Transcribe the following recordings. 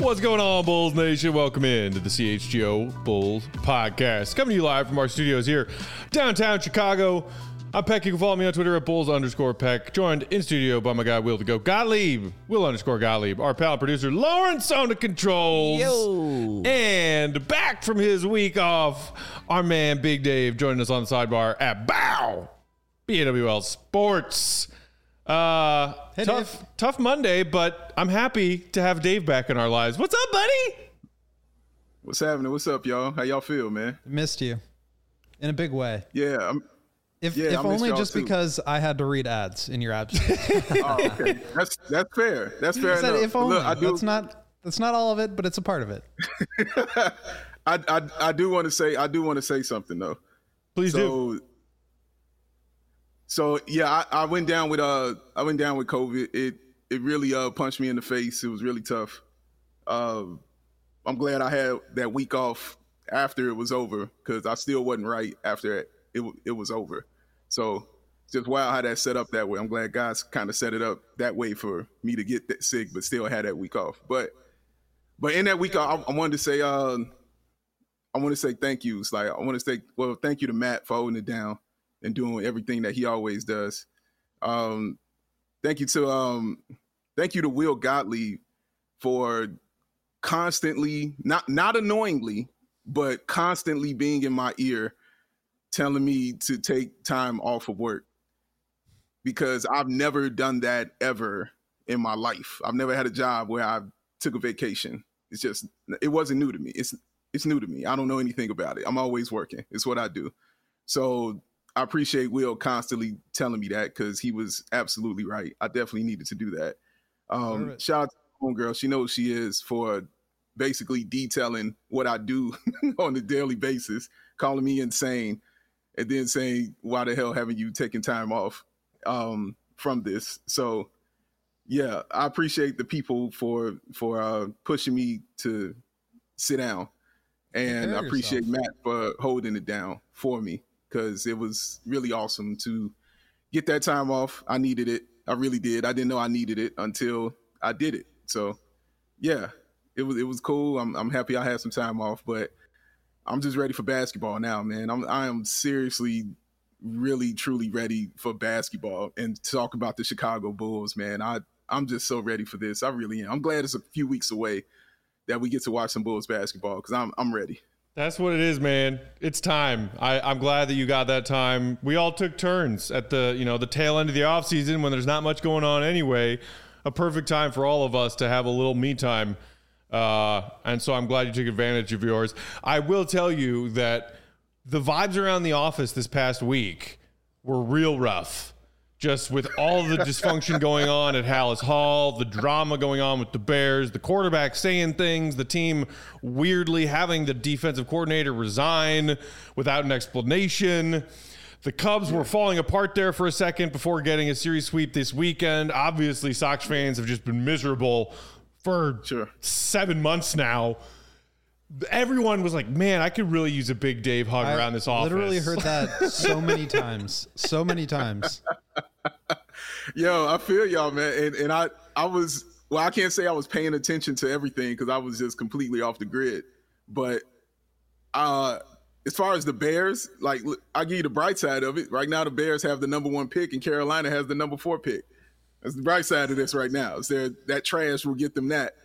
What's going on, Bulls Nation? Welcome in to the CHGO Bulls Podcast. Coming to you live from our studios here, downtown Chicago. I'm Peck. You can follow me on Twitter at Bulls_Peck. Joined in studio by my guy, Will to go Gottlieb. Will_Gottlieb. Our pal producer, Lawrence on the controls. Yo. And back from his week off, our man, Big Dave, joining us on the sidebar at BAW. BAWL Sports. Tough Monday, but I'm happy to have Dave back in our lives. What's up, buddy? What's happening? What's up, y'all? How y'all feel, man? Missed you in a big way. Yeah. If I only y'all just too. because I had to read ads in your absence. Oh, okay. That's fair. That's fair I said enough. if only. Look, That's not all of it, but it's a part of it. I do want to say something though. Please do. So yeah, I went down with COVID. It really punched me in the face. It was really tough. I'm glad I had that week off after it was over because I still wasn't right after it was over. So just wow how that set up that way. I'm glad God's kind of set it up that way for me to get that sick, but still had that week off. But in that week, I wanted to say thank yous. Like I want to say, well, thank you to Matt for holding it down and doing everything that he always does. Thank you to Will Gottlieb for constantly, not annoyingly, but constantly being in my ear, telling me to take time off of work, because I've never done that ever in my life. I've never had a job where I took a vacation. It wasn't new to me. It's new to me. I don't know anything about it. I'm always working. It's what I do. So I appreciate Will constantly telling me that because he was absolutely right. I definitely needed to do that. Shout out to my homegirl. She knows she is for basically detailing what I do on a daily basis, calling me insane, and then saying, why the hell haven't you taken time off from this? So, yeah, I appreciate the people for pushing me to sit down. And I appreciate Matt for holding it down for me, because it was really awesome to get that time off. I needed it. I really did. I didn't know I needed it until I did it. So, yeah, it was cool. I'm happy I had some time off, but I'm just ready for basketball now, man. I am seriously, really, truly ready for basketball and to talk about the Chicago Bulls, man. I'm just so ready for this. I really am. I'm glad it's a few weeks away that we get to watch some Bulls basketball, because I'm ready. That's what it is, man. It's time. I'm glad that you got that time. We all took turns at the tail end of the offseason when there's not much going on anyway. A perfect time for all of us to have a little me time. And so I'm glad you took advantage of yours. I will tell you that the vibes around the office this past week were real rough. Just with all the dysfunction going on at Hallis Hall, the drama going on with the Bears, the quarterback saying things, the team weirdly having the defensive coordinator resign without an explanation. The Cubs were falling apart there for a second before getting a series sweep this weekend. Obviously, Sox fans have just been miserable for 7 months now. Everyone was like, man, I could really use a Big Dave hug around this office. I literally heard that so many times. So many times. Yo, I feel y'all, man. And I was, well, I can't say I was paying attention to everything because I was just completely off the grid. But as far as the Bears, like, I'll give you the bright side of it. Right now, the Bears have the number 1 pick and Carolina has the number 4 pick. That's the bright side of this right now. So that trash will get them that.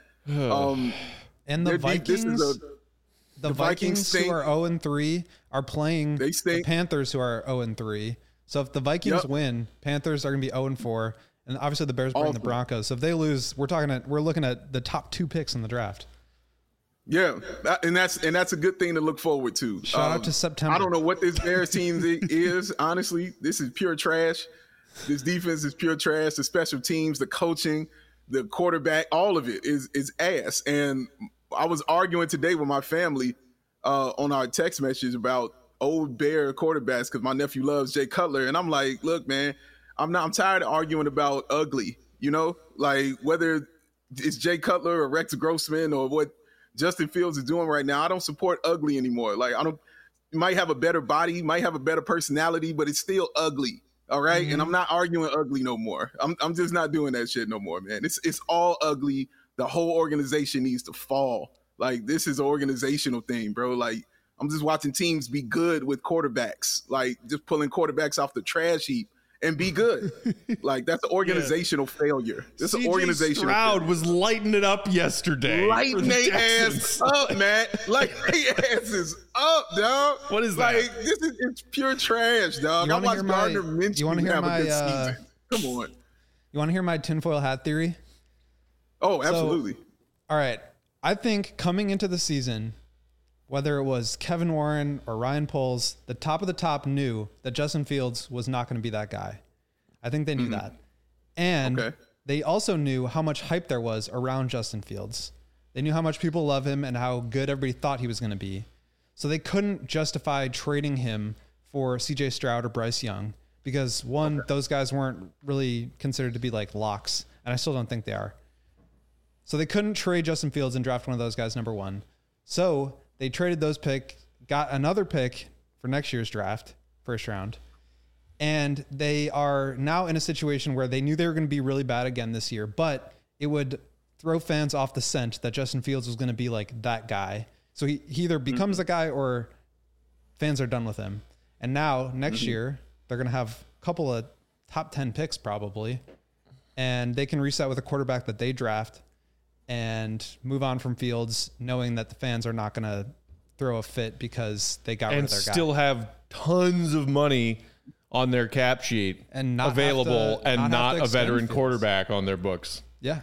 And the Vikings, the Vikings who are 0-3 are playing the Panthers who are 0-3. So if the Vikings win, Panthers are going to be 0-4, and obviously the Bears bring the Broncos. So if they lose, we're looking at the top 2 picks in the draft. Yeah, and that's a good thing to look forward to. Shout out to September. I don't know what this Bears team is. Honestly, this is pure trash. This defense is pure trash. The special teams, the coaching, the quarterback, all of it is ass. And I was arguing today with my family on our text message about old Bear quarterbacks because my nephew loves Jay Cutler. And I'm like, look, man, I'm tired of arguing about ugly, like whether it's Jay Cutler or Rex Grossman or what Justin Fields is doing right now. I don't support ugly anymore. Like, you might have a better body, might have a better personality, but it's still ugly. All right. Mm-hmm. And I'm not arguing ugly no more. I'm just not doing that shit no more, man. It's all ugly the whole organization needs to fall. Like, this is an organizational thing, bro. Like, I'm just watching teams be good with quarterbacks, like just pulling quarterbacks off the trash heap and be good. Like, that's an organizational failure. This is an organizational Stroud failure. was lighting it up yesterday. Lighting their ass up, man. Like, their asses up, dog. What is that? Like, it's pure trash, dog. I watched Gardner Minshew have a good season. Come on. You want to hear my tinfoil hat theory? Oh, absolutely. All right. I think coming into the season, whether it was Kevin Warren or Ryan Poles, the top of the top knew that Justin Fields was not going to be that guy. I think they knew that. And they also knew how much hype there was around Justin Fields. They knew how much people love him and how good everybody thought he was going to be. So they couldn't justify trading him for CJ Stroud or Bryce Young because, one, those guys weren't really considered to be like locks, and I still don't think they are. So they couldn't trade Justin Fields and draft one of those guys, number one. So they traded those picks, got another pick for next year's draft, first round. And they are now in a situation where they knew they were going to be really bad again this year, but it would throw fans off the scent that Justin Fields was going to be like that guy. So he either becomes the guy or fans are done with him. And now next year, they're going to have a couple of top 10 picks probably. And they can reset with a quarterback that they draft and move on from Fields, knowing that the fans are not going to throw a fit because they got rid of their guy. And still have tons of money on their cap sheet and not available and not a veteran quarterback on their books. Yeah.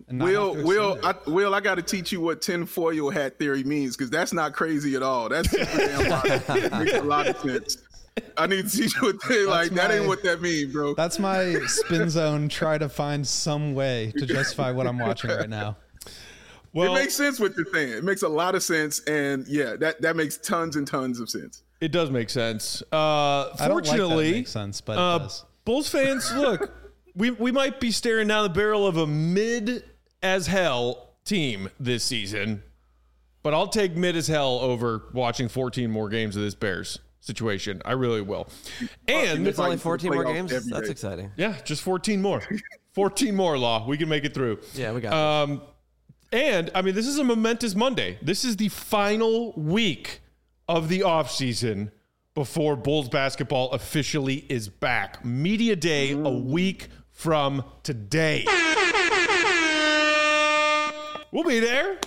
Will, I got to teach you what tinfoil hat theory means, because that's not crazy at all. That's super damn logical. It makes a lot of sense. I need to teach you what that ain't what that means, bro. That's my spin zone. Try to find some way to justify what I'm watching right now. Well, it makes sense what you're saying. It makes a lot of sense, and yeah, that makes tons and tons of sense. It does make sense. Fortunately, I don't like that it makes sense, but it does. Bulls fans, look, we might be staring down the barrel of a mid as hell team this season, but I'll take mid as hell over watching 14 more games of this Bears situation. I really will. And it's only 14 more games. That's exciting. Yeah, just 14 more. 14 more, Law. We can make it through. Yeah, we got it. And I mean, this is a momentous Monday. This is the final week of the offseason before Bulls basketball officially is back. Media Day a week from today. We'll be there.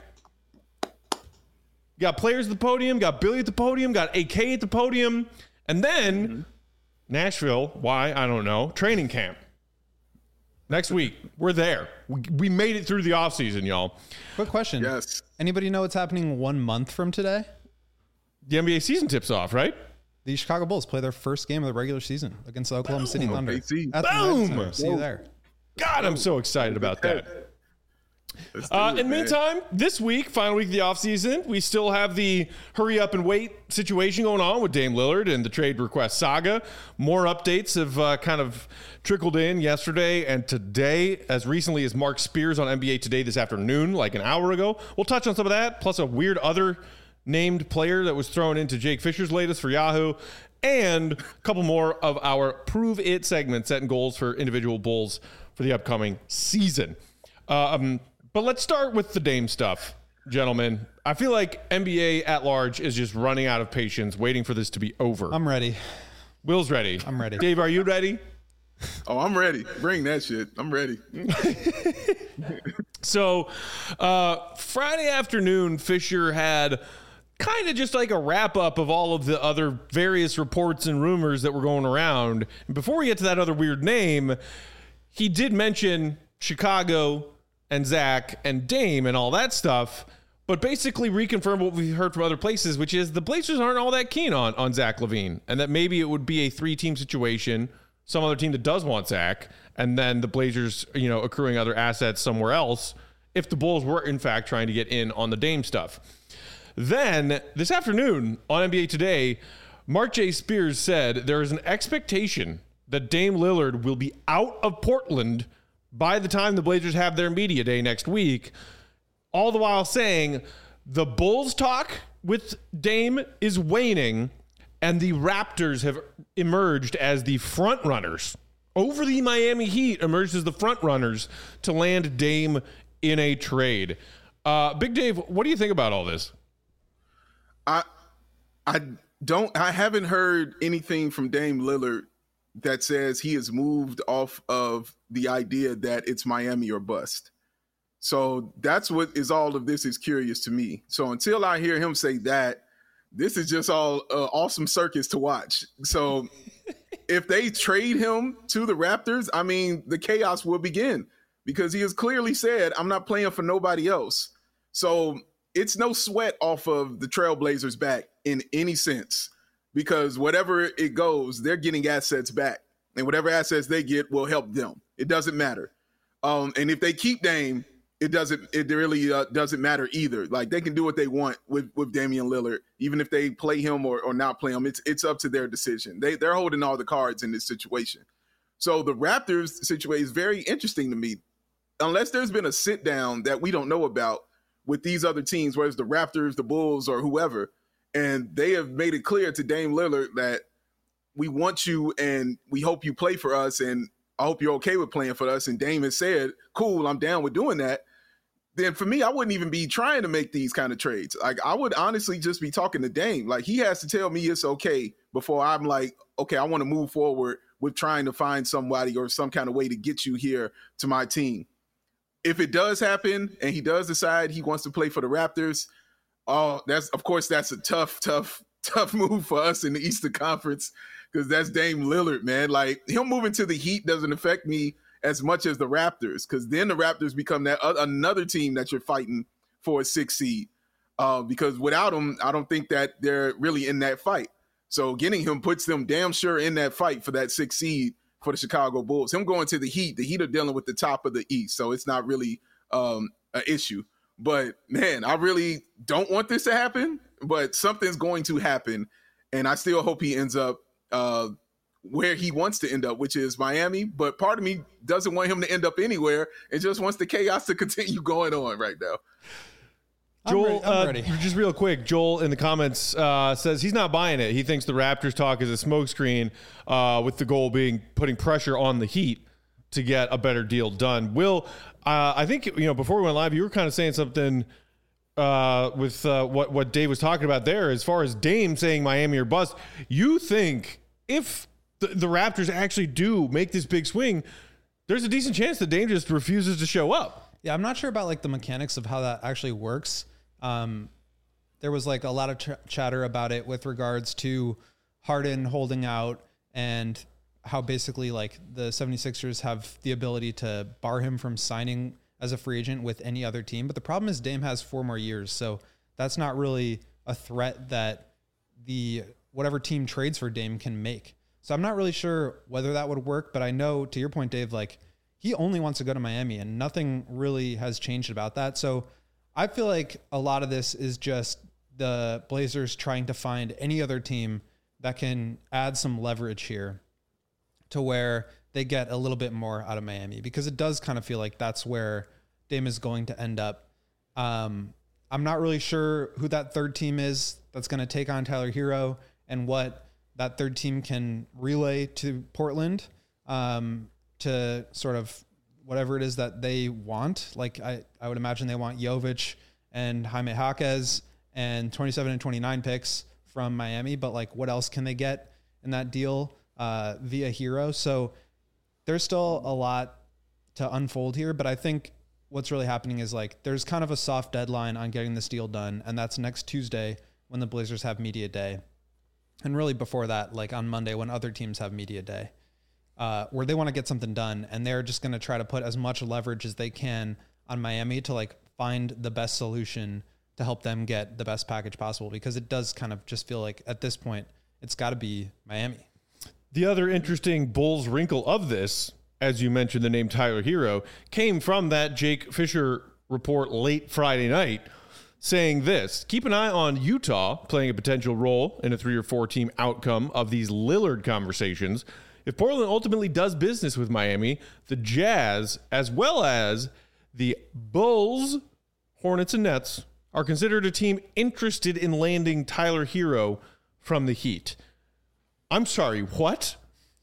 Got players at the podium, got Billy at the podium, got AK at the podium, and then Nashville, why? I don't know, training camp. Next week, we're there. We made it through the offseason, y'all. Quick question. Yes. Anybody know what's happening 1 month from today? The NBA season tips off, right? The Chicago Bulls play their first game of the regular season against the Oklahoma City Thunder. Boom! See you there. God, I'm so excited about that. In the meantime, this week, final week of the offseason, we still have the hurry up and wait situation going on with Dame Lillard and the trade request saga. More updates have kind of trickled in yesterday and today, as recently as Mark Spears on NBA Today this afternoon, like an hour ago. We'll touch on some of that, plus a weird other named player that was thrown into Jake Fisher's latest for Yahoo, and a couple more of our Prove It segments, setting goals for individual Bulls for the upcoming season. But let's start with the Dame stuff, gentlemen. I feel like NBA at large is just running out of patience, waiting for this to be over. I'm ready. Will's ready. I'm ready. Dave, are you ready? Oh, I'm ready. Bring that shit. I'm ready. So, Friday afternoon, Fisher had kind of just like a wrap up of all of the other various reports and rumors that were going around. And before we get to that other weird name, he did mention Chicago and Zach and Dame and all that stuff, but basically reconfirm what we've heard from other places, which is the Blazers aren't all that keen on Zach LaVine, and that maybe it would be a 3-team situation, some other team that does want Zach, and then the Blazers, accruing other assets somewhere else if the Bulls were in fact trying to get in on the Dame stuff. Then this afternoon on NBA Today, Mark J. Spears said there is an expectation that Dame Lillard will be out of Portland by the time the Blazers have their media day next week, all the while saying the Bulls talk with Dame is waning and the Raptors have emerged as the front runners over the Miami Heat, emerged as the front runners to land Dame in a trade. Big Dave, what do you think about all this? I haven't heard anything from Dame Lillard that says he has moved off of the idea that it's Miami or bust. So that's what is all of this is curious to me. So until I hear him say that, this is just all awesome circus to watch. So if they trade him to the Raptors, I mean, the chaos will begin because he has clearly said, I'm not playing for nobody else. So it's no sweat off of the Trailblazers back in any sense because whatever it goes, they're getting assets back. And whatever assets they get will help them. It doesn't matter. And if they keep Dame, it really doesn't matter either. Like they can do what they want with Damian Lillard, even if they play him or not play him. It's up to their decision. They're holding all the cards in this situation. So the Raptors situation is very interesting to me. Unless there's been a sit down that we don't know about with these other teams, whether it's the Raptors, the Bulls, or whoever, and they have made it clear to Dame Lillard that we want you and we hope you play for us, and I hope you're okay with playing for us. And Dame has said, cool, I'm down with doing that. Then for me, I wouldn't even be trying to make these kind of trades. Like I would honestly just be talking to Dame. Like he has to tell me it's okay before I'm like, okay, I want to move forward with trying to find somebody or some kind of way to get you here to my team. If it does happen and he does decide he wants to play for the Raptors, that's a tough move for us in the Eastern Conference because that's Dame Lillard, man. Like him moving to the Heat doesn't affect me as much as the Raptors, because then the Raptors become that another team that you're fighting for a 6 seed. Because without him, I don't think that they're really in that fight. So getting him puts them damn sure in that fight for that 6 seed for the Chicago Bulls. Him going to the Heat are dealing with the top of the East, so it's not really an issue. But man, I really don't want this to happen, but something's going to happen, and I still hope he ends up where he wants to end up, which is Miami. But part of me doesn't want him to end up anywhere. It just wants the chaos to continue going on right now. Joel, I'm ready. Just real quick, Joel in the comments says he's not buying it. He thinks the Raptors talk is a smokescreen with the goal being putting pressure on the Heat to get a better deal done. Will, I think, before we went live, you were kind of saying something with what Dave was talking about there as far as Dame saying Miami or bust. You think if the Raptors actually do make this big swing, there's a decent chance that Dame just refuses to show up. Yeah, I'm not sure about like the mechanics of how that actually works. There was like a lot of chatter about it with regards to Harden holding out and how basically like the 76ers have the ability to bar him from signing as a free agent with any other team. But the problem is Dame has 4 more years. So that's not really a threat that whatever team trades for Dame can make. So I'm not really sure whether that would work, but I know, to your point, Dave, like he only wants to go to Miami and nothing really has changed about that. So I feel like a lot of this is just the Blazers trying to find any other team that can add some leverage here to where they get a little bit more out of Miami, because it does kind of feel like that's where Dame is going to end up. I'm not really sure who that third team is that's going to take on Tyler Hero and what that third team can relay to Portland to sort of whatever it is that they want. Like I would imagine they want Jovic and Jaime Jaquez and 27 and 29 picks from Miami, but like what else can they get in that deal via Hero? So there's still a lot to unfold here, but I think what's really happening is like there's kind of a soft deadline on getting this deal done, and that's next Tuesday when the Blazers have media day. And really before that, like on Monday when other teams have media day, where they want to get something done, and they're just going to try to put as much leverage as they can on Miami to like find the best solution to help them get the best package possible, because it does kind of just feel like at this point it's got to be Miami. The other interesting Bulls wrinkle of this, as you mentioned the name Tyler Hero, came from that Jake Fisher report late Friday night saying this: keep an eye on Utah playing a potential role in a 3 or 4 team outcome of these Lillard conversations. If Portland ultimately does business with Miami, the Jazz, as well as the Bulls, Hornets, and Nets, are considered a team interested in landing Tyler Hero from the Heat. I'm sorry, what?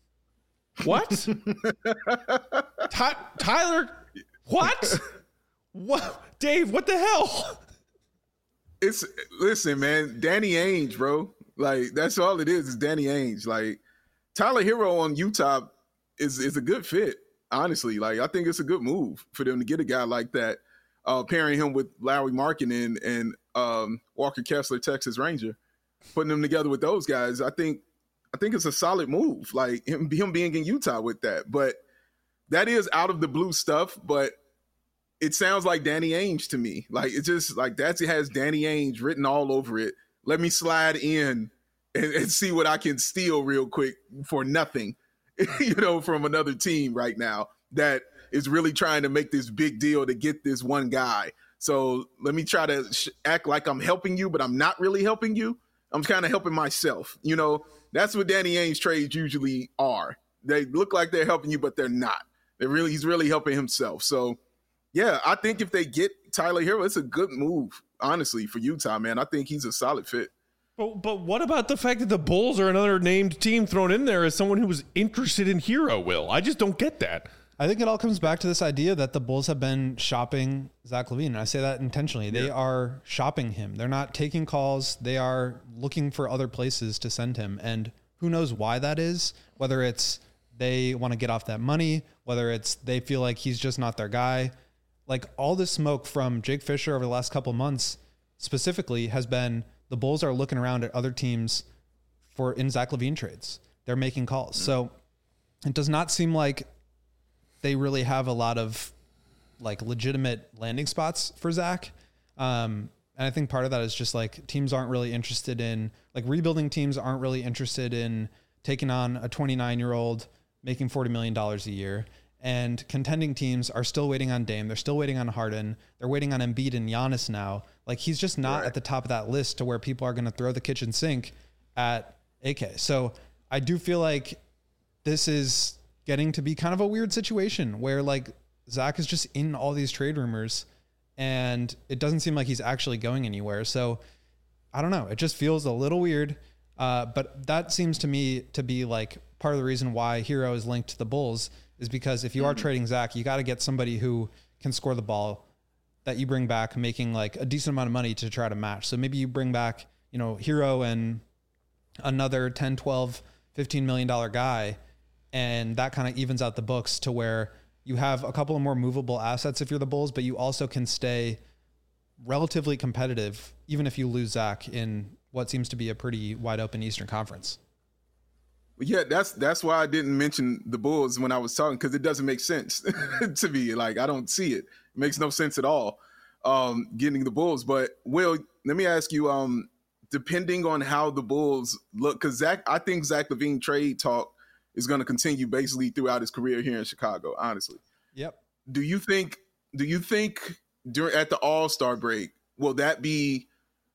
What? Tyler, what? What, Dave? What the hell? Listen, man. Danny Ainge, bro. Like that's all it is Danny Ainge. Like Tyler Hero on Utah is a good fit. Honestly, like I think it's a good move for them to get a guy like that, pairing him with Larry Markkinen and Walker Kessler, Texas Ranger, putting them together with those guys. I think it's a solid move. Like him being in Utah with that, but that is out of the blue stuff. But it sounds like Danny Ainge to me. Like it's just like it has Danny Ainge written all over it. Let me slide in and see what I can steal real quick for nothing, from another team right now that is really trying to make this big deal to get this one guy. So let me try to act like I'm helping you, but I'm not really helping you. I'm kind of helping myself. That's what Danny Ainge trades usually are. They look like they're helping you, but they're not. He's really helping himself. So yeah, I think if they get Tyler Hero, it's a good move, honestly, for Utah, man. I think he's a solid fit. But what about the fact that the Bulls are another named team thrown in there as someone who was interested in Hero, Will? I just don't get that. I think it all comes back to this idea that the Bulls have been shopping Zach LaVine. And I say that intentionally. They are shopping him. They're not taking calls. They are looking for other places to send him. And who knows why that is, whether it's they want to get off that money, whether it's they feel like he's just not their guy. Like all this smoke from Jake Fisher over the last couple of months specifically has been the Bulls are looking around at other teams in Zach LaVine trades. They're making calls. So it does not seem like they really have a lot of like legitimate landing spots for Zach. And I think part of that is just like teams aren't really interested in like rebuilding teams aren't really interested in taking on a 29-year-old making $40 million a year. And contending teams are still waiting on Dame. They're still waiting on Harden. They're waiting on Embiid and Giannis now. Like he's just not at the top of that list to where people are going to throw the kitchen sink at AK. So I do feel like this is getting to be kind of a weird situation where like Zach is just in all these trade rumors and it doesn't seem like he's actually going anywhere. So I don't know. It just feels a little weird. But that seems to me to be like part of the reason why Hero is linked to the Bulls is because if you are trading Zach, you got to get somebody who can score the ball that you bring back making like a decent amount of money to try to match. So maybe you bring back, Hero and another 10, 12, $15 million guy. And that kind of evens out the books to where you have a couple of more movable assets if you're the Bulls, but you also can stay relatively competitive, even if you lose Zach in what seems to be a pretty wide open Eastern Conference. Yeah, that's why I didn't mention the Bulls when I was talking, because it doesn't make sense to me. Like, I don't see it. It makes no sense at all getting the Bulls. But, Will, let me ask you, depending on how the Bulls look, because I think Zach LaVine trade talk is going to continue basically throughout his career here in Chicago, honestly. Yep. Do you think at the All-Star break, will that be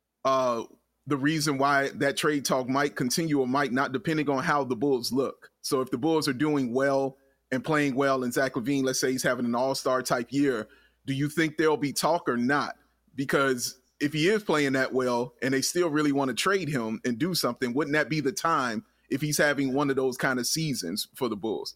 the reason why that trade talk might continue or might not, depending on how the Bulls look? So if the Bulls are doing well and playing well and Zach LaVine, let's say he's having an all-star type year, do you think there'll be talk or not? Because if he is playing that well and they still really want to trade him and do something, wouldn't that be the time if he's having one of those kind of seasons for the Bulls?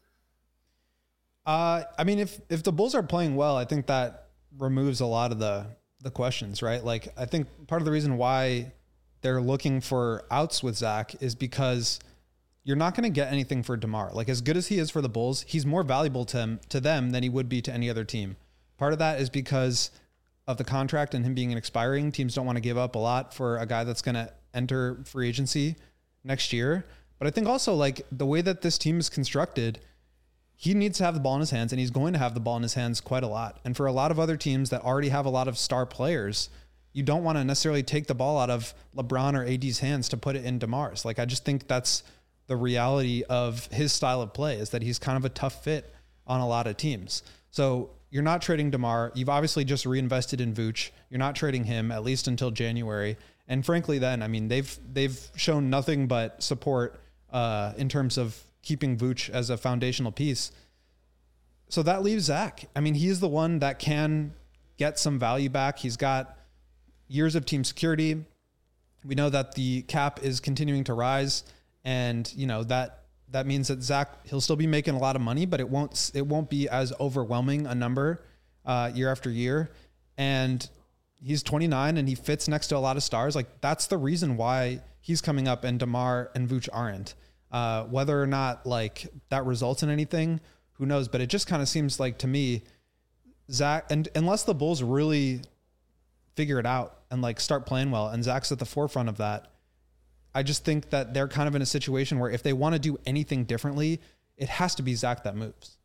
I mean, if the Bulls are playing well, I think that removes a lot of the questions, right? Like, I think part of the reason why they're looking for outs with Zach is because you're not going to get anything for DeMar. Like, as good as he is for the Bulls, he's more valuable to them than he would be to any other team. Part of that is because of the contract and him being an expiring. Teams don't want to give up a lot for a guy that's going to enter free agency next year. But I think also, like, the way that this team is constructed, he needs to have the ball in his hands, and he's going to have the ball in his hands quite a lot. And for a lot of other teams that already have a lot of star players, you don't want to necessarily take the ball out of LeBron or AD's hands to put it in DeMar's. Like, I just think that's the reality of his style of play, is that he's kind of a tough fit on a lot of teams. So you're not trading DeMar. You've obviously just reinvested in Vooch. You're not trading him at least until January. And frankly, then, I mean, they've shown nothing but support in terms of keeping Vooch as a foundational piece. So that leaves Zach. I mean, he's the one that can get some value back. He's got years of team security. We know that the cap is continuing to rise, and that means that Zach, he'll still be making a lot of money, but it won't be as overwhelming a number year after year. and he's 29 and he fits next to a lot of stars. Like, that's the reason why he's coming up and DeMar and Vooch aren't. Whether or not like that results in anything, who knows? But it just kind of seems like to me, Zach, and unless the Bulls really figure it out and like start playing well, and Zach's at the forefront of that, I just think that they're kind of in a situation where if they want to do anything differently, it has to be Zach that moves.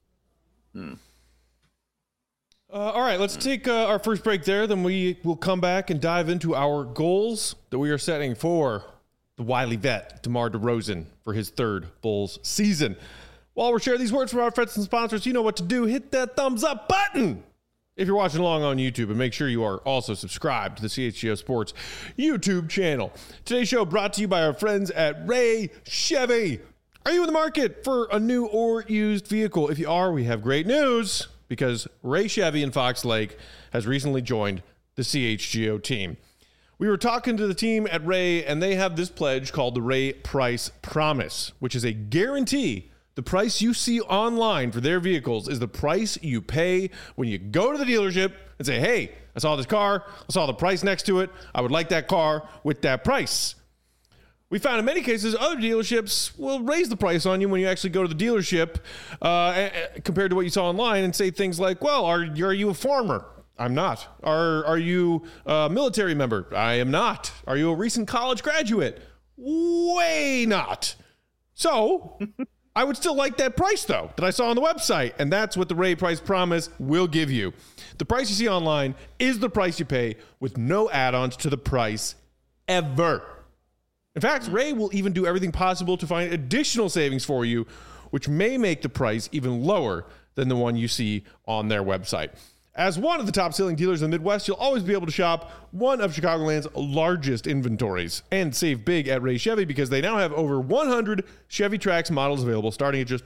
All right, let's take our first break there. Then we will come back and dive into our goals that we are setting for the wily vet, DeMar DeRozan, for his third Bulls season. While we're sharing these words from our friends and sponsors, you know what to do. Hit that thumbs up button if you're watching along on YouTube, and make sure you are also subscribed to the CHGO Sports YouTube channel. Today's show brought to you by our friends at Ray Chevy. Are you in the market for a new or used vehicle? If you are, we have great news, because Ray Chevy in Fox Lake has recently joined the CHGO team. We were talking to the team at Ray, and they have this pledge called the Ray Price Promise, which is a guarantee the price you see online for their vehicles is the price you pay when you go to the dealership and say, hey, I saw this car, I saw the price next to it, I would like that car with that price. We found in many cases other dealerships will raise the price on you when you actually go to the dealership compared to what you saw online, and say things like, well, are you a farmer? I'm not. Are you a military member? I am not. Are you a recent college graduate? Way not. So I would still like that price, though, that I saw on the website, and that's what the Ray Price Promise will give you. The price you see online is the price you pay, with no add-ons to the price ever. In fact, Ray will even do everything possible to find additional savings for you, which may make the price even lower than the one you see on their website. As one of the top-selling dealers in the Midwest, you'll always be able to shop one of Chicagoland's largest inventories and save big at Ray Chevy, because they now have over 100 Chevy Trax models available, starting at just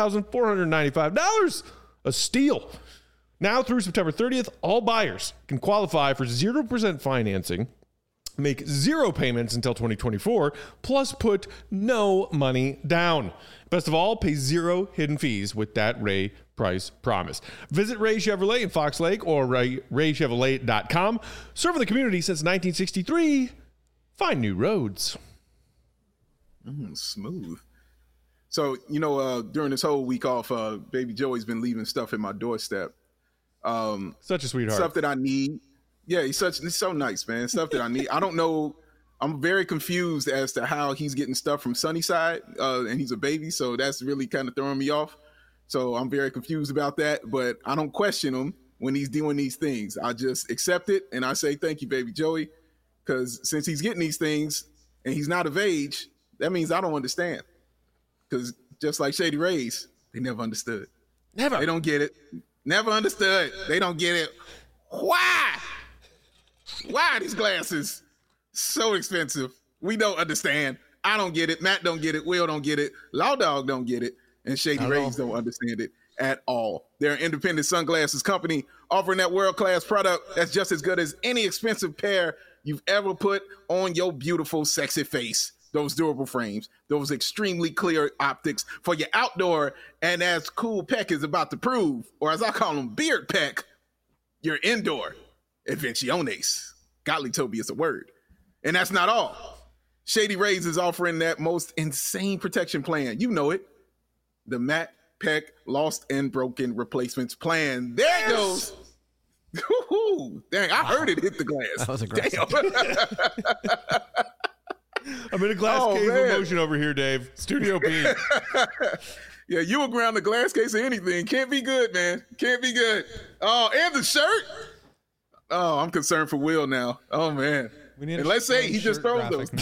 $21,495. A steal. Now through September 30th, all buyers can qualify for 0% financing, make 0 payments until 2024, plus put no money down. Best of all, pay 0 hidden fees with that Ray Price Promise. Visit Ray Chevrolet in Fox Lake or raychevrolet.com. Serving the community since 1963. Find new roads. Smooth. So, during this whole week off, baby Joey's been leaving stuff at my doorstep. Such a sweetheart. Stuff that I need. Yeah, he's so nice, man. Stuff that I need. I don't know. I'm very confused as to how he's getting stuff from Sunnyside, and he's a baby, so that's really kind of throwing me off. So I'm very confused about that, but I don't question him when he's doing these things. I just accept it, and I say, thank you, baby Joey, because since he's getting these things and he's not of age, that means I don't understand. Because just like Shady Rays, they never understood. Never. They don't get it. Never understood. They don't get it. Why? Why are these glasses so expensive? We don't understand. I don't get it. Matt don't get it. Will don't get it. Law Dog don't get it. And Shady Rays don't understand it at all. They're an independent sunglasses company offering that world-class product that's just as good as any expensive pair you've ever put on your beautiful, sexy face. Those durable frames, those extremely clear optics for your outdoor, and as Cool Peck is about to prove, or as I call him, Beard Peck, your indoor invenciones. Godly told me it's a word. And that's not all. Shady Rays is offering that most insane protection plan. You know it. The Matt Peck Lost and Broken Replacements Plan. There it goes. Ooh, dang, I heard it hit the glass. That was aggressive. I'm in a glass case of emotion over here, Dave. Studio B. Yeah, you were around the glass case of anything. Can't be good, man. Can't be good. Oh, and the shirt. Oh, I'm concerned for Will now. Oh, man. And let's say he just throws those.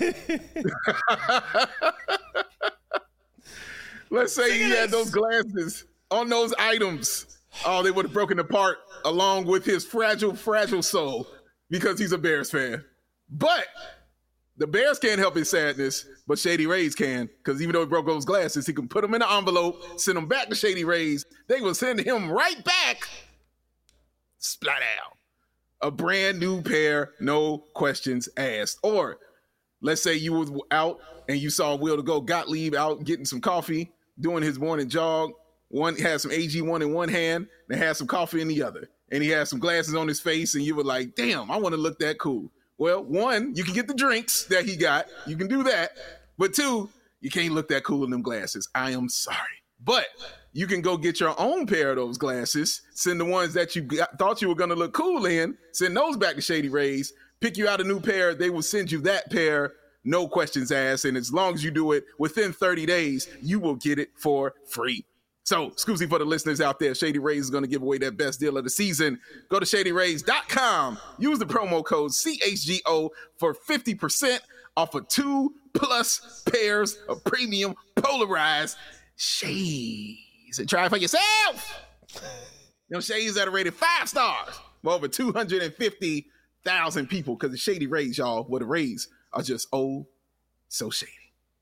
Let's say he had those glasses on those items. Oh, they would have broken apart along with his fragile soul because he's a Bears fan. But the Bears can't help his sadness, but Shady Rays can, because even though he broke those glasses, he can put them in an envelope, send them back to Shady Rays. They will send him right back. Splat out. A brand new pair, no questions asked. Or let's say you was out and you saw Will to go Gottlieb out getting some coffee, doing his morning jog, One had some AG1 in one hand and had some coffee in the other. And he had some glasses on his face, and you were like, damn, I want to look that cool. Well, one, you can get the drinks that he got. You can do that. But two, you can't look that cool in them glasses. I am sorry. But you can go get your own pair of those glasses, send the ones that you thought you were going to look cool in, send those back to Shady Rays, pick you out a new pair. They will send you that pair, no questions asked. And as long as you do it within 30 days, you will get it for free. So, excuse me for the listeners out there, Shady Rays is going to give away their best deal of the season. Go to ShadyRays.com. Use the promo code CHGO for 50% off of 2+ pairs of premium polarized shades. And try it for yourself. Them shades that are rated 5 stars for over 250,000 people, because the Shady Rays, y'all, the Rays are just so shady.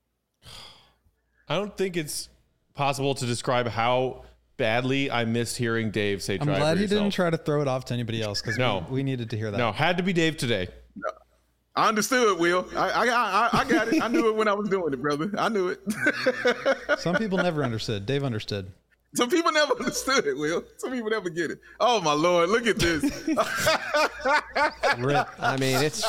I don't think it's possible to describe how badly I missed hearing Dave say try I'm glad for he yourself. didn't try to throw it off to anybody else, because we needed to hear that. No, had to be Dave today. No. I understood, Will. I got it. I knew it when I was doing it, brother. I knew it. Some people never understood. Dave understood. Some people never understood it, Will. Some people never get it. Oh, my Lord. Look at this. Rip. I mean, it's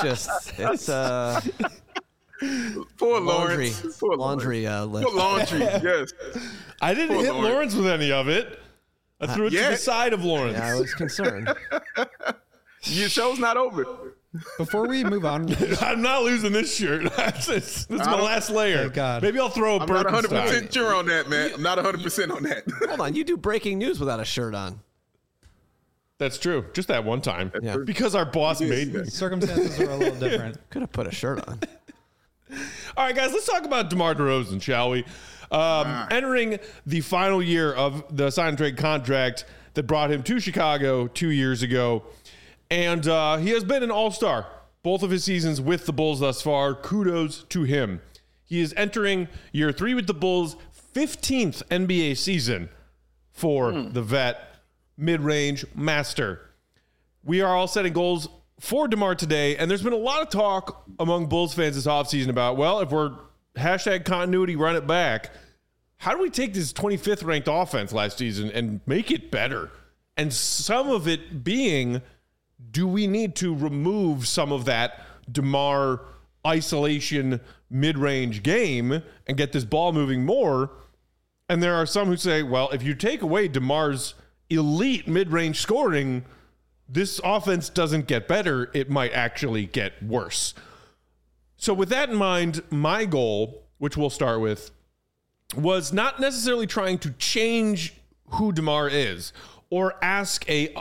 Poor laundry. Lawrence. Poor laundry list. Poor laundry, yes. I didn't hit Lawrence with any of it. I threw it to the side of Lawrence. Yeah, I was concerned. Your show's not over. Before we move on, I'm not losing this shirt. That's my last layer. Thank God. Maybe I'll throw a I'm not Birkenstock. 100% sure on that, man. I'm not 100% on that. Hold on, you do breaking news without a shirt on. That's true. Just that one time. Yeah. Because our boss made me. circumstances are a little different. Could have put a shirt on. All right, guys, let's talk about DeMar DeRozan, shall we? Entering the final year of the sign and trade contract that brought him to Chicago 2 years ago. And he has been an all-star both of his seasons with the Bulls thus far. Kudos to him. He is entering year 3 with the Bulls, 15th NBA season for the vet, mid-range master. We are all setting goals for DeMar today, and there's been a lot of talk among Bulls fans this offseason about, well, if we're #continuity, run it back, how do we take this 25th ranked offense last season and make it better? And some of it being, do we need to remove some of that DeMar isolation mid-range game and get this ball moving more? And there are some who say, well, if you take away DeMar's elite mid-range scoring, this offense doesn't get better. It might actually get worse. So with that in mind, my goal, which we'll start with, was not necessarily trying to change who DeMar is or ask a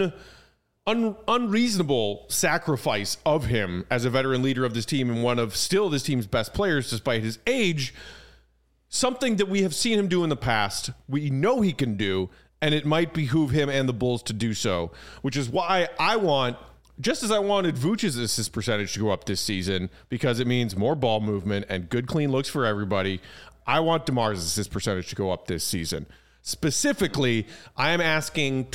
unreasonable sacrifice of him as a veteran leader of this team and one of still this team's best players despite his age. Something that we have seen him do in the past, we know he can do, and it might behoove him and the Bulls to do so, which is why I want, just as I wanted Vooch's assist percentage to go up this season, because it means more ball movement and good, clean looks for everybody, I want DeMar's assist percentage to go up this season. Specifically, I am asking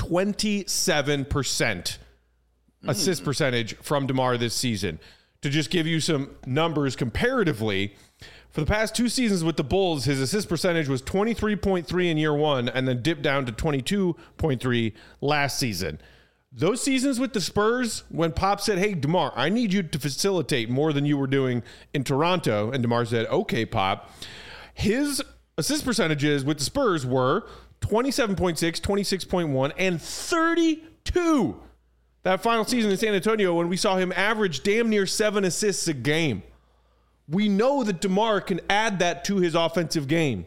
27% assist percentage from DeMar this season. To just give you some numbers comparatively, for the past 2 seasons with the Bulls, his assist percentage was 23.3 in year 1 and then dipped down to 22.3 last season. Those seasons with the Spurs, when Pop said, hey, DeMar, I need you to facilitate more than you were doing in Toronto, and DeMar said, okay, Pop, his assist percentages with the Spurs were 27.6, 26.1, and 32. That final season in San Antonio when we saw him average damn near 7 assists a game. We know that DeMar can add that to his offensive game.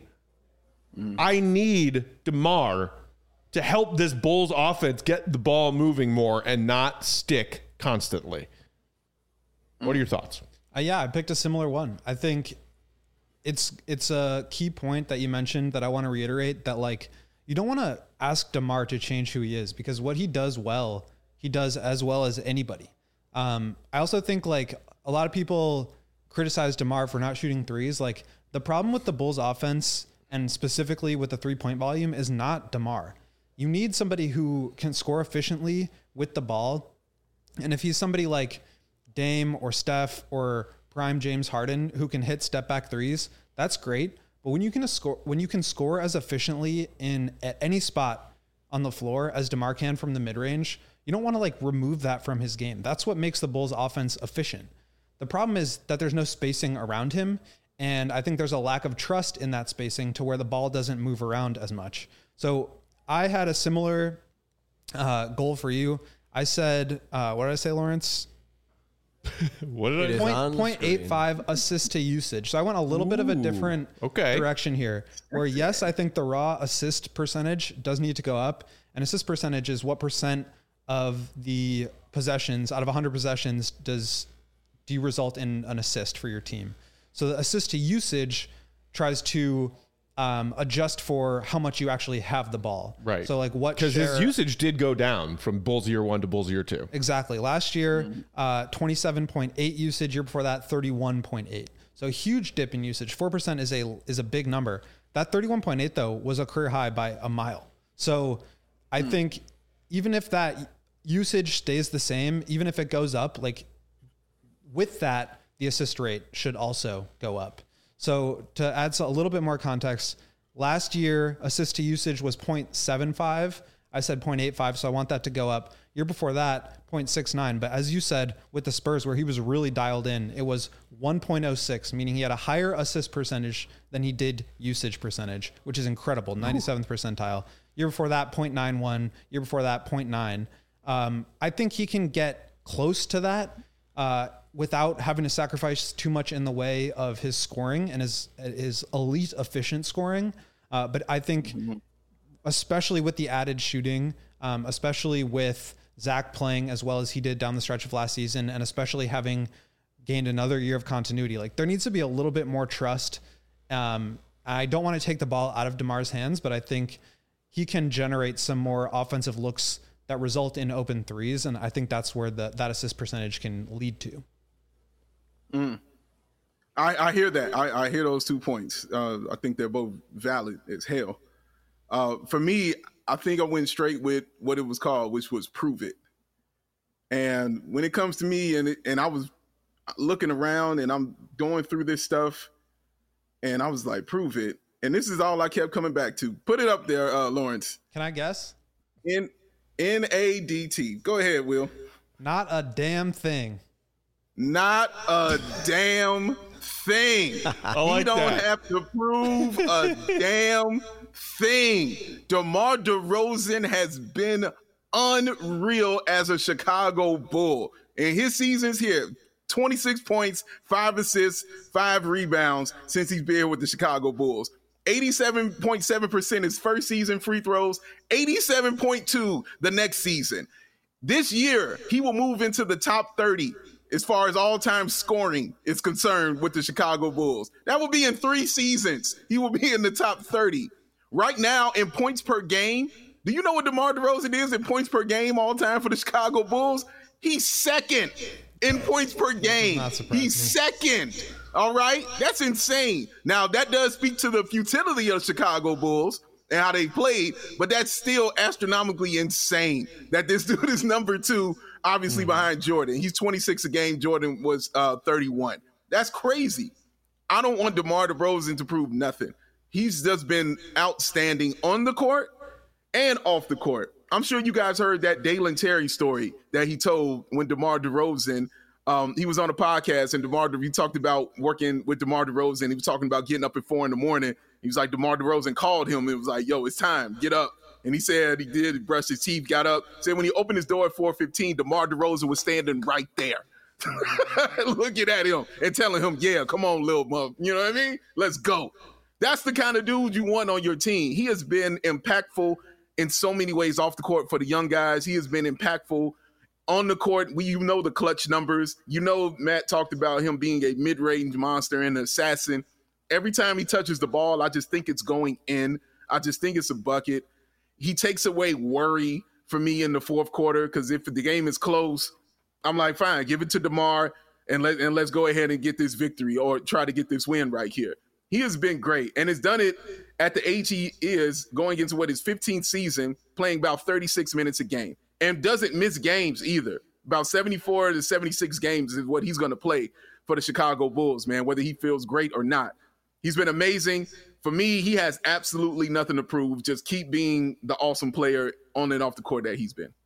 I need DeMar to help this Bulls offense get the ball moving more and not stick constantly. What are your thoughts? Yeah, I picked a similar one. I think it's a key point that you mentioned that I want to reiterate, that like you don't want to ask DeMar to change who he is, because what he does well, he does as well as anybody. I also think like a lot of people criticize DeMar for not shooting threes. Like the problem with the Bulls offense, and specifically with the 3-point volume, is not DeMar. You need somebody who can score efficiently with the ball. And if he's somebody like Dame or Steph or prime James Harden who can hit step back threes, that's great. But when you can score as efficiently at any spot on the floor as DeMar can from the mid-range, you don't want to like remove that from his game. That's what makes the Bulls offense efficient. The problem is that there's no spacing around him. And I think there's a lack of trust in that spacing to where the ball doesn't move around as much. So I had a similar goal for you. I said, what did I say, Lawrence? What did I 0.85 assist to usage. So I went a little bit of a different direction here, where yes, I think the raw assist percentage does need to go up. And assist percentage is what percent of the possessions out of 100 possessions do you result in an assist for your team. So the assist to usage tries to adjust for how much you actually have the ball. Right. So like what, because his usage did go down from Bulls year 1 to Bulls year 2. Exactly. Last year, 27.8 usage. Year before that, 31.8. So a huge dip in usage. 4% is a big number. That 31.8 though was a career high by a mile. So I think even if that usage stays the same, even if it goes up, like with that, the assist rate should also go up. So to add a little bit more context, last year, assist to usage was 0.75. I said 0.85, so I want that to go up. Year before that, 0.69. But as you said, with the Spurs, where he was really dialed in, it was 1.06, meaning he had a higher assist percentage than he did usage percentage, which is incredible, 97th percentile. Year before that, 0.91. Year before that, 0.9. I think he can get close to that without having to sacrifice too much in the way of his scoring and his elite efficient scoring. But I think especially with the added shooting, especially with Zach playing as well as he did down the stretch of last season, and especially having gained another year of continuity, like there needs to be a little bit more trust. I don't want to take the ball out of DeMar's hands, but I think he can generate some more offensive looks that result in open threes. And I think that's where that assist percentage can lead to. I hear that. I hear those 2 points. I think they're both valid as hell. For me, I think I went straight with what it was called, which was prove it. And when it comes to me, and I was looking around and I'm going through this stuff, and I was like, prove it. And this is all I kept coming back to. Put it up there, Lawrence. Can I guess? NADT. Go ahead, Will. Not a damn thing. Not a damn thing. You don't have to prove a damn thing. DeMar DeRozan has been unreal as a Chicago Bull. In his seasons here, 26 points, 5 assists, 5 rebounds since he's been with the Chicago Bulls. 87.7% his first season free throws, 87.2 the next season. This year, he will move into the top 30 as far as all-time scoring is concerned with the Chicago Bulls. That will be in 3 seasons. He will be in the top 30. Right now, in points per game, do you know what DeMar DeRozan is in points per game all-time for the Chicago Bulls? He's second in points per game. He's second. All right? That's insane. Now, that does speak to the futility of Chicago Bulls and how they played, but that's still astronomically insane that this dude is number 2, obviously behind Jordan. He's 26 a game. Jordan was 31. That's crazy. I don't want DeMar DeRozan to prove nothing. He's just been outstanding on the court and off the court. I'm sure you guys heard that Dalen Terry story that he told when DeMar DeRozan, he was on a podcast and he talked about working with DeMar DeRozan. He was talking about getting up at 4 a.m. He was like, DeMar DeRozan called him and was like, yo, it's time, get up. And he said he did, he brushed his teeth, got up. Said when he opened his door at 4:15, DeMar DeRozan was standing right there. Looking at him and telling him, yeah, come on, little mother. You know what I mean? Let's go. That's the kind of dude you want on your team. He has been impactful in so many ways off the court for the young guys. He has been impactful on the court. You know the clutch numbers. You know Matt talked about him being a mid-range monster and an assassin. Every time he touches the ball, I just think it's going in. I just think it's a bucket. He takes away worry for me in the fourth quarter because if the game is close, I'm like, fine, give it to DeMar and let's go ahead and get this victory or try to get this win right here. He has been great and has done it at the age he is, going into his 15th season, playing about 36 minutes a game and doesn't miss games either. About 74 to 76 games is what he's going to play for the Chicago Bulls, man, whether he feels great or not. He's been amazing. for me, he has absolutely nothing to prove. Just keep being the awesome player on and off the court that he's been.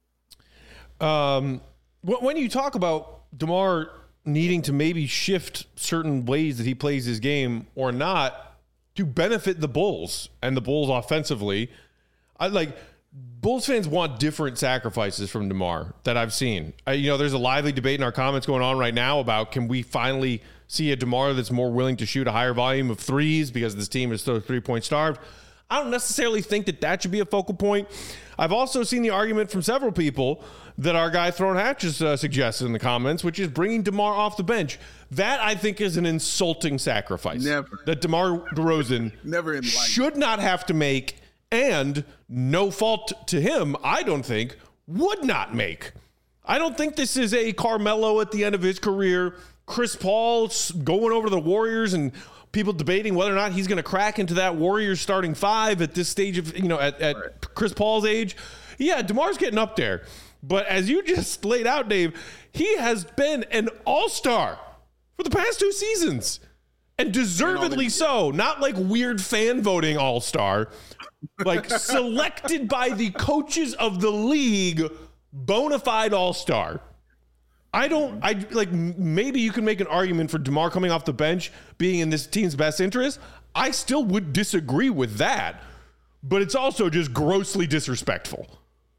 When you talk about DeMar needing to maybe shift certain ways that he plays his game or not to benefit the Bulls and the Bulls offensively, Bulls fans want different sacrifices from DeMar that I've seen. There's a lively debate in our comments going on right now about, can we finally see a DeMar that's more willing to shoot a higher volume of threes because this team is so 3-point starved? I don't necessarily think that should be a focal point. I've also seen the argument from several people that our guy Throne Hatches suggested in the comments, which is bringing DeMar off the bench. That, I think, is an insulting sacrifice. Never. That DeMar DeRozan never in life should not have to make, and no fault to him, I don't think, would not make. I don't think this is a Carmelo at the end of his career, Chris Paul going over to the Warriors and people debating whether or not he's going to crack into that Warriors starting five at this stage of, at Chris Paul's age. Yeah, DeMar's getting up there. But as you just laid out, Dave, he has been an all-star for the past 2 seasons. And deservedly so. Not like weird fan voting all-star. Like selected by the coaches of the league, bona fide all-star. Maybe you can make an argument for DeMar coming off the bench being in this team's best interest. I still would disagree with that, but it's also just grossly disrespectful.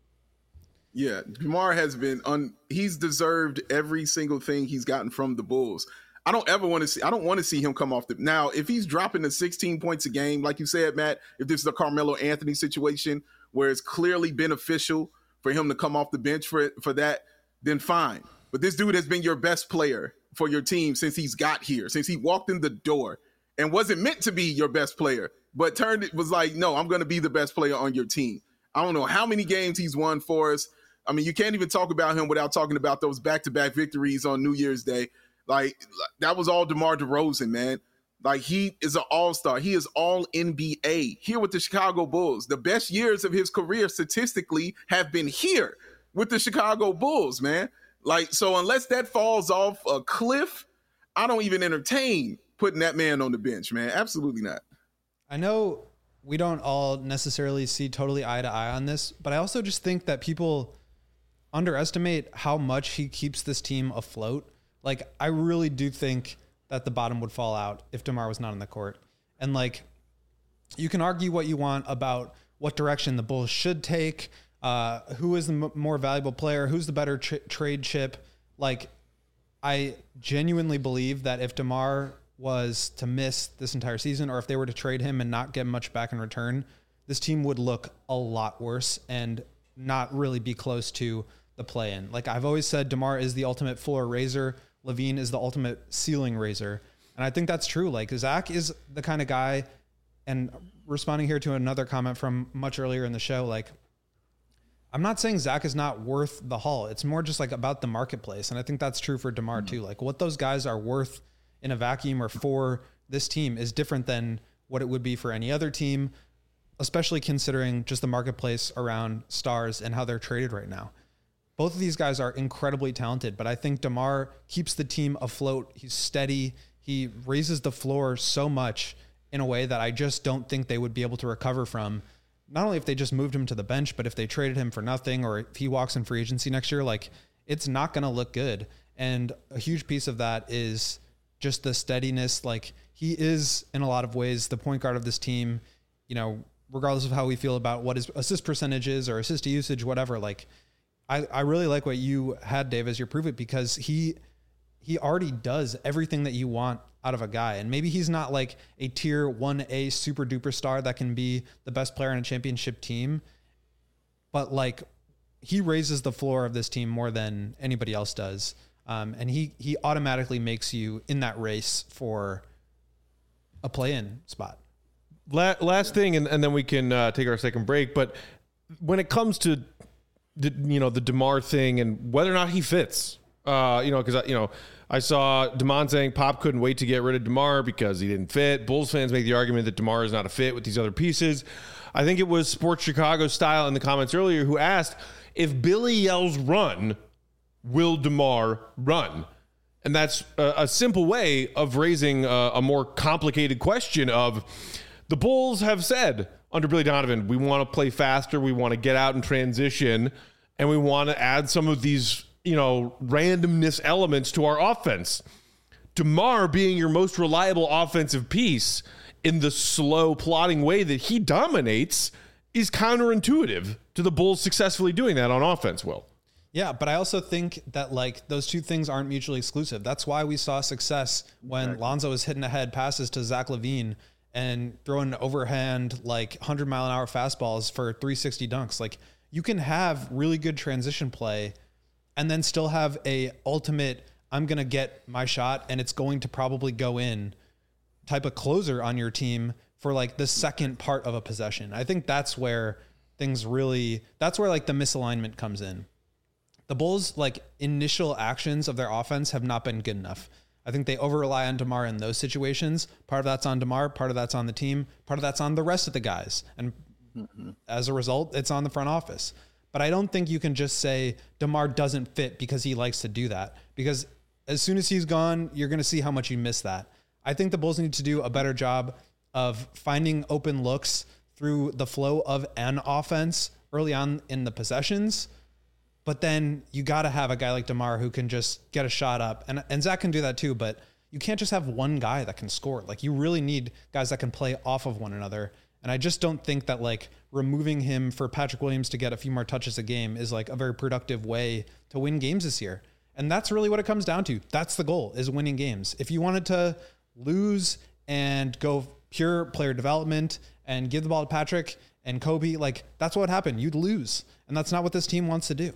Yeah, DeMar has been he's deserved every single thing he's gotten from the Bulls. I don't want to see him come off now, if he's dropping the 16 points a game, like you said, Matt, if this is a Carmelo Anthony situation where it's clearly beneficial for him to come off the bench for that, then fine. But this dude has been your best player for your team since he's got here, since he walked in the door, and wasn't meant to be your best player, but was like, no, I'm going to be the best player on your team. I don't know how many games he's won for us. I mean, you can't even talk about him without talking about those back-to-back victories on New Year's Day. Like, that was all DeMar DeRozan, man. Like, he is an all-star. He is all NBA here with the Chicago Bulls. The best years of his career statistically have been here with the Chicago Bulls, man. Like, so unless that falls off a cliff, I don't even entertain putting that man on the bench, man. Absolutely not. I know we don't all necessarily see totally eye to eye on this, but I also just think that people underestimate how much he keeps this team afloat. Like, I really do think that the bottom would fall out if DeMar was not on the court. And like, you can argue what you want about what direction the Bulls should take, who is the more valuable player, who's the better trade chip. Like, I genuinely believe that if DeMar was to miss this entire season, or if they were to trade him and not get much back in return, this team would look a lot worse and not really be close to the play-in. Like, I've always said, DeMar is the ultimate floor raiser. LaVine is the ultimate ceiling raiser. And I think that's true. Like, Zach is the kind of guy, and responding here to another comment from much earlier in the show, like, I'm not saying Zach is not worth the haul. It's more just like about the marketplace. And I think that's true for DeMar too. Like, what those guys are worth in a vacuum or for this team is different than what it would be for any other team, especially considering just the marketplace around stars and how they're traded right now. Both of these guys are incredibly talented, but I think DeMar keeps the team afloat. He's steady. He raises the floor so much in a way that I just don't think they would be able to recover from. Not only if they just moved him to the bench, but if they traded him for nothing, or if he walks in free agency next year, like, it's not going to look good. And a huge piece of that is just the steadiness. Like, he is in a lot of ways the point guard of this team, regardless of how we feel about what his assist percentage is or assist usage, whatever. Like, I really like what you had, Dave, as your prove it, because he already does everything that you want out of a guy. And maybe he's not like a tier 1A super duper star that can be the best player on a championship team, but like, he raises the floor of this team more than anybody else does. And he automatically makes you in that race for a play-in spot. Last thing, and then we can take our second break. But when it comes to the DeMar thing and whether or not he fits, because I saw Damon saying Pop couldn't wait to get rid of DeMar because he didn't fit. Bulls fans make the argument that DeMar is not a fit with these other pieces. I think it was Sports Chicago Style in the comments earlier who asked, if Billy yells run, will DeMar run? And that's a simple way of raising a more complicated question of The Bulls have said under Billy Donovan, we want to play faster, we want to get out and transition, and we want to add some of these, randomness elements to our offense. DeMar being your most reliable offensive piece in the slow, plodding way that he dominates is counterintuitive to the Bulls successfully doing that on offense, Will. Yeah, but I also think that those two things aren't mutually exclusive. That's why we saw success when Lonzo was hitting ahead passes to Zach LaVine and throwing overhand 100-mile-an-hour fastballs for 360 dunks. You can have really good transition play and then still have a ultimate, I'm going to get my shot and it's going to probably go in type of closer on your team for the second part of a possession. I think that's where the misalignment comes in. The Bulls initial actions of their offense have not been good enough. I think they over rely on DeMar in those situations. Part of that's on DeMar, part of that's on the team, part of that's on the rest of the guys. And as a result, it's on the front office. But I don't think you can just say DeMar doesn't fit because he likes to do that. Because as soon as he's gone, you're going to see how much you miss that. I think the Bulls need to do a better job of finding open looks through the flow of an offense early on in the possessions. But then you got to have a guy like DeMar who can just get a shot up. And Zach can do that too, but you can't just have one guy that can score. You really need guys that can play off of one another. And I just don't think that removing him for Patrick Williams to get a few more touches a game is a very productive way to win games this year. And that's really what it comes down to. That's the goal, is winning games. If you wanted to lose and go pure player development and give the ball to Patrick and Kobe, that's what would happen. You'd lose. And that's not what this team wants to do.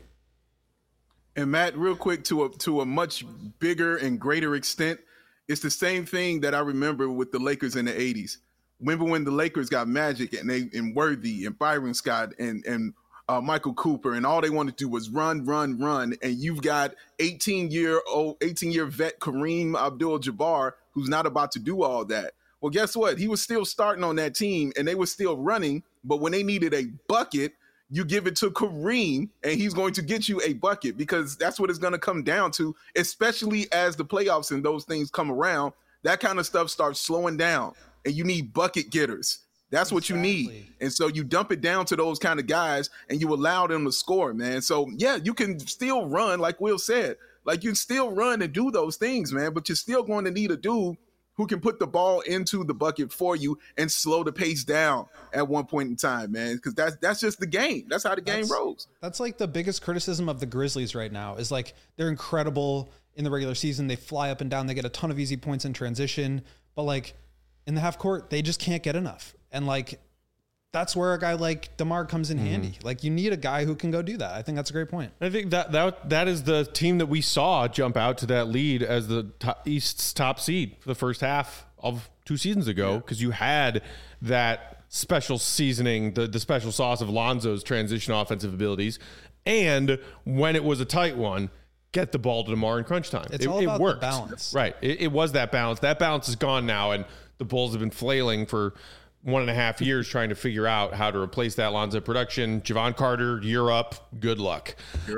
And Matt, real quick, to a much bigger and greater extent, it's the same thing that I remember with the Lakers in the 80s. Remember when the Lakers got Magic and Worthy and Byron Scott and Michael Cooper, and all they wanted to do was run, and you've got 18-year vet Kareem Abdul-Jabbar who's not about to do all that. Well, guess what? He was still starting on that team, and they were still running, but when they needed a bucket, you give it to Kareem, and he's going to get you a bucket, because that's what it's going to come down to, especially as the playoffs and those things come around. That kind of stuff starts slowing down, and you need bucket getters. That's what you need. And so you dump it down to those kind of guys, and you allow them to score, man. So, yeah, you can still run, like Will said. You can still run and do those things, man, but you're still going to need a dude who can put the ball into the bucket for you and slow the pace down at one point in time, man, because that's just the game. That's how the game rolls. That's the biggest criticism of the Grizzlies right now is they're incredible in the regular season. They fly up and down. They get a ton of easy points in transition. But in the half court, they just can't get enough. And that's where a guy like DeMar comes in handy. You need a guy who can go do that. I think that's a great point. I think that is the team that we saw jump out to that lead as the East's top seed for the first half of 2 seasons ago, because you had that special seasoning, the special sauce of Lonzo's transition offensive abilities. And when it was a tight one, get the ball to DeMar in crunch time. It's all about the balance. Right. It was that balance. That balance is gone now, and the Bulls have been flailing for 1.5 years trying to figure out how to replace that Lonzo production. Javon Carter, you're up. Good luck.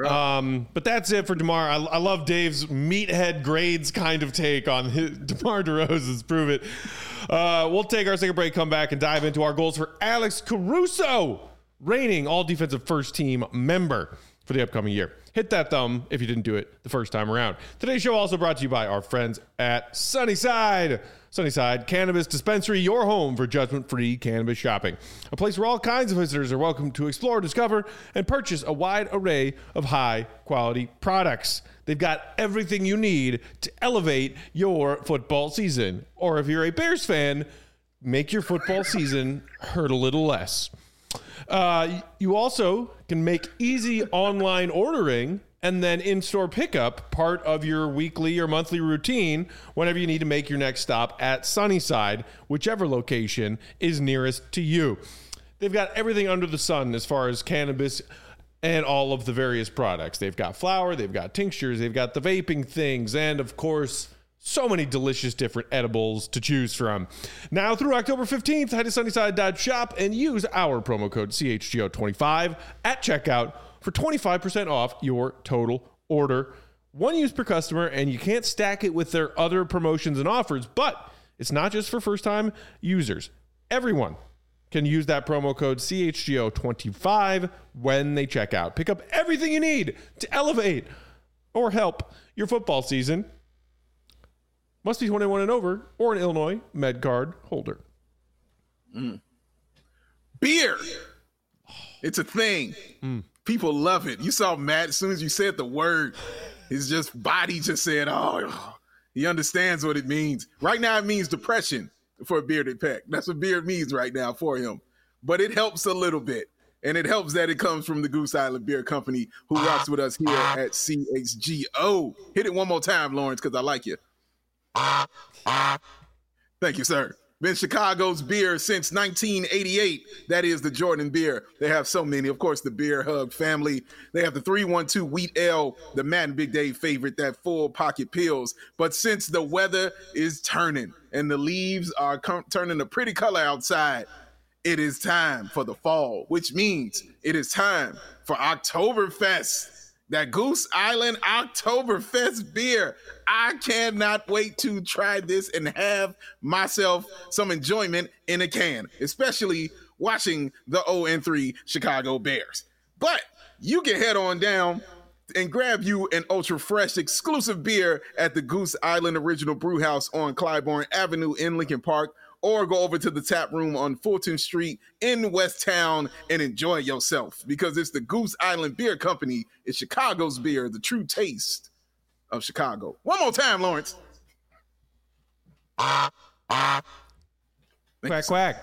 But that's it for DeMar. I love Dave's meathead grades kind of take on DeMar DeRozan's Prove It. We'll take our second break, come back, and dive into our goals for Alex Caruso, reigning all-defensive first-team member for the upcoming year. Hit that thumb if you didn't do it the first time around. Today's show also brought to you by our friends at Sunnyside. Sunnyside Cannabis Dispensary, your home for judgment-free cannabis shopping. A place where all kinds of visitors are welcome to explore, discover, and purchase a wide array of high-quality products. They've got everything you need to elevate your football season. Or if you're a Bears fan, make your football season hurt a little less. You also can make easy online ordering and then in-store pickup part of your weekly or monthly routine whenever you need to make your next stop at Sunnyside, whichever location is nearest to you. They've got everything under the sun as far as cannabis and all of the various products. They've got flour, they've got tinctures, they've got the vaping things, and of course, so many delicious different edibles to choose from. Now through October 15th, head to Sunnyside.shop and use our promo code CHGO25 at checkout for 25% off your total order. One use per customer, and you can't stack it with their other promotions and offers, but it's not just for first-time users. everyone can use that promo code CHGO25 when they check out. Pick up everything you need to elevate or help your football season. Must be 21 and over or an Illinois MedCard holder. Beer. It's a thing. People love it. You saw Matt, as soon as you said the word, his just body just said, oh, he understands what it means. Right now it means depression for a bearded peck. That's what beard means right now for him. But it helps a little bit. And it helps that it comes from the Goose Island Beer Company, who rocks with us here at CHGO. Hit it one more time, Lawrence, because I like you. Thank you, sir. Been Chicago's beer since 1988. That is the Jordan beer. They have so many. Of course, the Beer Hug family. They have the 312 Wheat Ale, the Matt and Big Dave favorite, that full pocket pills. But since the weather is turning and the leaves are turning a pretty color outside, it is time for the fall, which means it is time for Oktoberfest. That Goose Island Oktoberfest beer. I cannot wait to try this and have myself some enjoyment in a can, especially watching the 0-3 Chicago Bears. But you can head on down and grab you an ultra fresh exclusive beer at the Goose Island Original Brewhouse on Clybourne Avenue in Lincoln Park, or go over to the tap room on Fulton Street in West Town and enjoy yourself, because it's the Goose Island Beer Company. It's Chicago's beer, the true taste of Chicago. One more time, Lawrence. Quack, quack.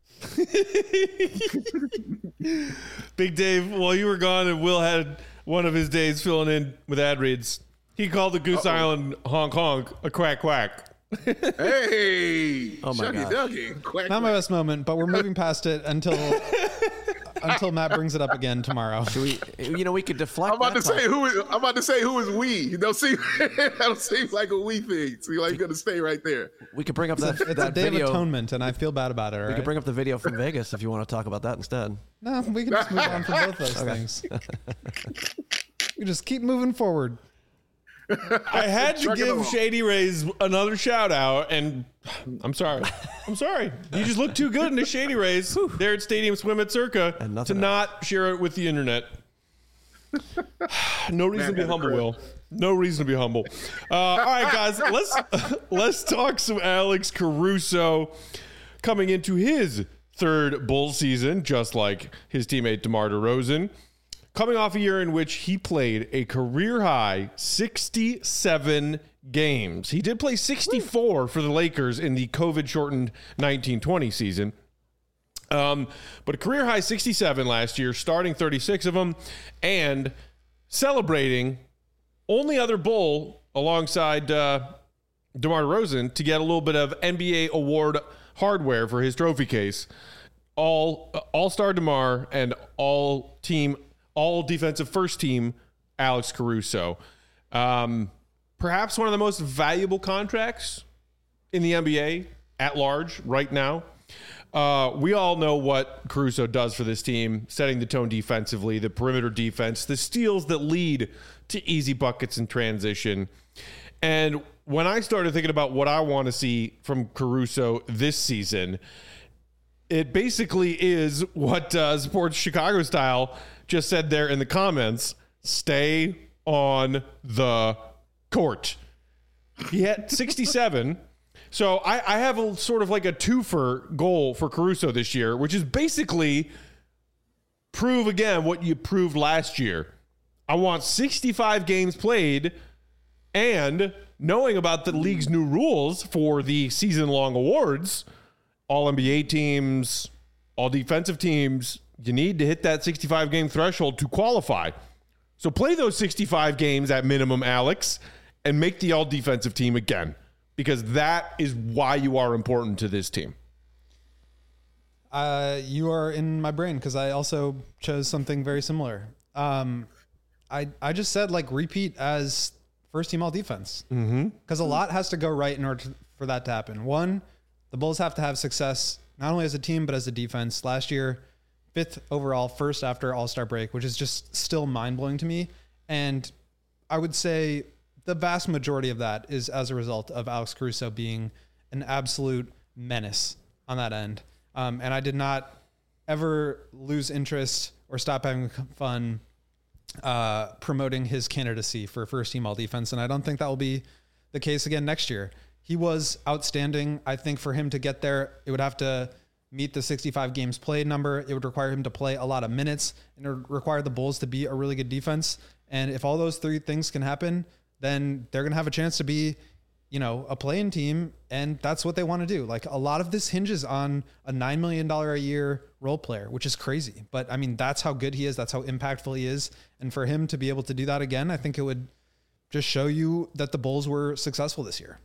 Big Dave, while you were gone and Will had one of his days filling in with ad reads, he called the Goose Island honk honk a quack quack. Hey, oh my God. Dougie. Quack, Not quack. my best moment, but we're moving past it until Matt brings it up again tomorrow. Should we could deflect. I'm about to say who is we. You don't seem like a we thing. So you're like gonna stay right there. We could bring up that It's a day of atonement, and I feel bad about it. We could bring up the video from Vegas if you want to talk about that instead. No, we can just move on from both those things. We just keep moving forward. I had to give Shady Rays another shout out, and I'm sorry. You just look too good in the Shady Rays there at Stadium Swim at Circa to not share it with the internet. No reason to be humble, Will. No reason to be humble. All right, guys, let's talk some Alex Caruso coming into his third Bull season, just like his teammate DeMar DeRozan. Coming off a year in which he played a career-high 67 games. He did play 64 for the Lakers in the COVID-shortened 1920 season. But a career-high 67 last year, starting 36 of them, and celebrating only other Bull alongside DeMar DeRozan to get a little bit of NBA award hardware for his trophy case. All-star DeMar and all defensive first team Alex Caruso. Perhaps one of the most valuable contracts in the NBA at large right now. We all know what Caruso does for this team, setting the tone defensively, the perimeter defense, the steals that lead to easy buckets in transition. And when I started thinking about what I want to see from Caruso this season, it basically is what Sports Chicago Style just said there in the comments: stay on the court. He had 67. So I have a sort of like a twofer goal for Caruso this year, which is basically prove again what you proved last year. I want 65 games played, and knowing about the league's new rules for the season-long awards, all NBA teams, all defensive teams, you need to hit that 65-game threshold to qualify. So play those 65 games at minimum, Alex, and make the all-defensive team again, because that is why you are important to this team. You are in my brain because I also chose something very similar. I just said repeat as first-team all-defense because a lot has to go right in order for that to happen. One, the Bulls have to have success not only as a team but as a defense. Last year, 5th overall, first after All-Star break, which is just still mind-blowing to me. And I would say the vast majority of that is as a result of Alex Caruso being an absolute menace on that end. And I did not ever lose interest or stop having fun promoting his candidacy for first team all defense. And I don't think that will be the case again next year. He was outstanding. I think for him to get there, it would have to meet the 65 games played number. It would require him to play a lot of minutes, and it would require the Bulls to be a really good defense. And if all those three things can happen, then they're going to have a chance to be, a play-in team. And that's what they want to do. Like, a lot of this hinges on a $9 million a year role player, which is crazy. But I mean, that's how good he is. That's how impactful he is. And for him to be able to do that again, I think it would just show you that the Bulls were successful this year.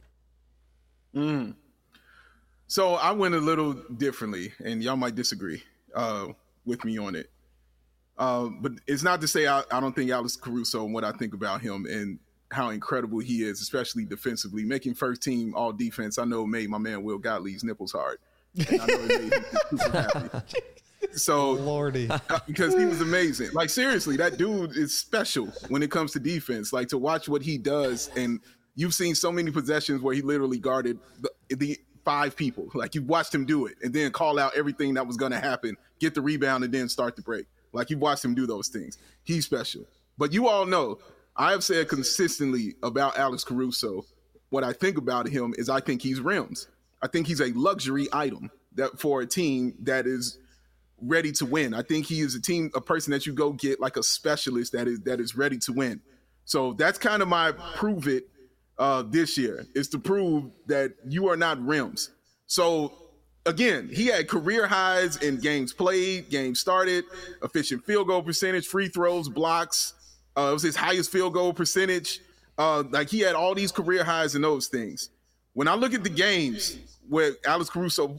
So I went a little differently, and y'all might disagree with me on it. But it's not to say I don't think Alex Caruso and what I think about him and how incredible he is, especially defensively. Making first team all defense, I know it made my man Will Gottlieb's nipples hard. And I know it made him super happy. So, Lordy. Because he was amazing. Like, seriously, that dude is special when it comes to defense. Like, to watch what he does, and you've seen so many possessions where he literally guarded the 5 people. Like, you watched him do it and then call out everything that was going to happen, get the rebound, and then start the break. Like, you watched him do those things. He's special. But you all know, I have said consistently about Alex Caruso, what I think about him is I think he's rims. I think he's a luxury item that for a team that is ready to win. I think he is a person that you go get, like a specialist that is ready to win. So that's kind of my prove it this year, is to prove that you are not rims. So again, he had career highs in games played, games started, efficient field goal percentage, free throws, blocks. It was his highest field goal percentage. Like, he had all these career highs in those things. When I look at the games where Alex Caruso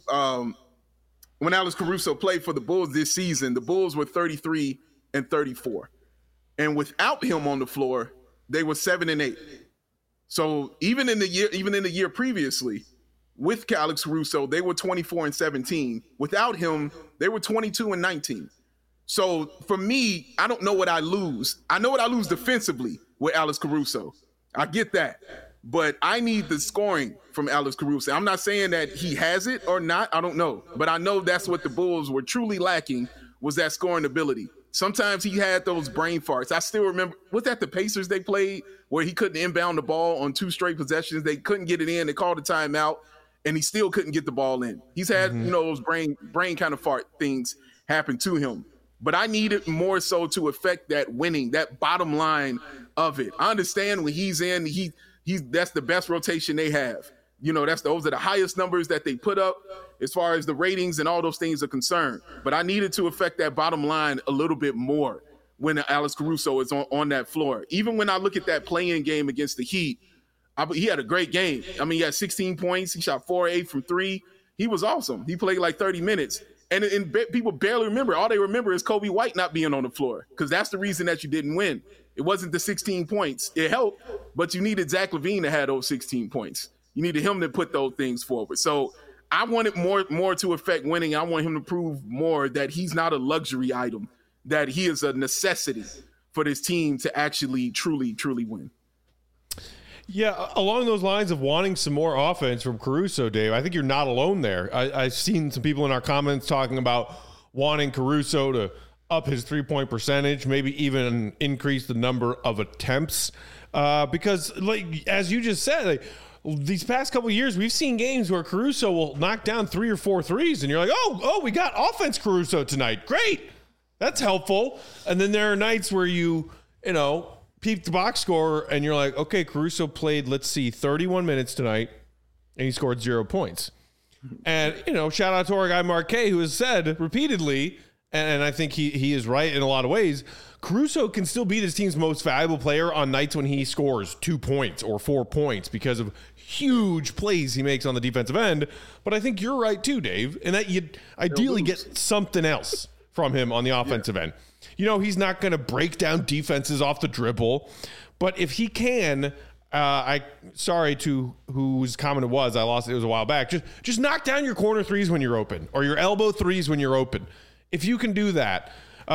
played for the Bulls this season, the Bulls were 33-34. And without him on the floor, they were 7-8. So even in the year previously, with Alex Caruso, they were 24-17. Without him, they were 22-19. So for me, I don't know what I lose. I know what I lose defensively with Alex Caruso. I get that. But I need the scoring from Alex Caruso. I'm not saying that he has it or not. I don't know. But I know that's what the Bulls were truly lacking, was that scoring ability. Sometimes he had those brain farts. I still remember, was that the Pacers they played where he couldn't inbound the ball on 2 straight possessions? They couldn't get it in. They called a timeout, and he still couldn't get the ball in. He's had, those brain kind of fart things happen to him. But I need it more so to affect that winning, that bottom line of it. I understand when he's in, that's the best rotation they have. Those are the highest numbers that they put up as far as the ratings and all those things are concerned. But I needed to affect that bottom line a little bit more when Alex Caruso is on that floor. Even when I look at that play-in game against the Heat, he had a great game. I mean, he had 16 points. He shot 4-8 from 3. He was awesome. He played like 30 minutes. And people barely remember. All they remember is Kobe White not being on the floor, because that's the reason that you didn't win. It wasn't the 16 points. It helped, but you needed Zach LaVine to have those 16 points. You needed him to put those things forward. So I wanted more to affect winning. I want him to prove more that he's not a luxury item, that he is a necessity for this team to actually, truly, truly win. Yeah, along those lines of wanting some more offense from Caruso, Dave, I think you're not alone there. I've seen some people in our comments talking about wanting Caruso to up his three-point percentage, maybe even increase the number of attempts. Because, like, as you just said, these past couple of years, we've seen games where Caruso will knock down 3 or 4 threes, and you're like, oh, we got offense Caruso tonight. Great. That's helpful. And then there are nights where you peep the box score, and you're like, okay, Caruso played, 31 minutes tonight, and he scored 0 points. And, shout out to our guy Marquet, who has said repeatedly, and I think he is right in a lot of ways, Caruso can still be this team's most valuable player on nights when he scores 2 points or 4 points because of huge plays he makes on the defensive end. But I think you're right too, Dave, in that you ideally get something else from him on the offensive end. He's not going to break down defenses off the dribble, but if he can, sorry to whose comment it was, I lost it was a while back. Just knock down your corner threes when you're open, or your elbow threes when you're open. If you can do that,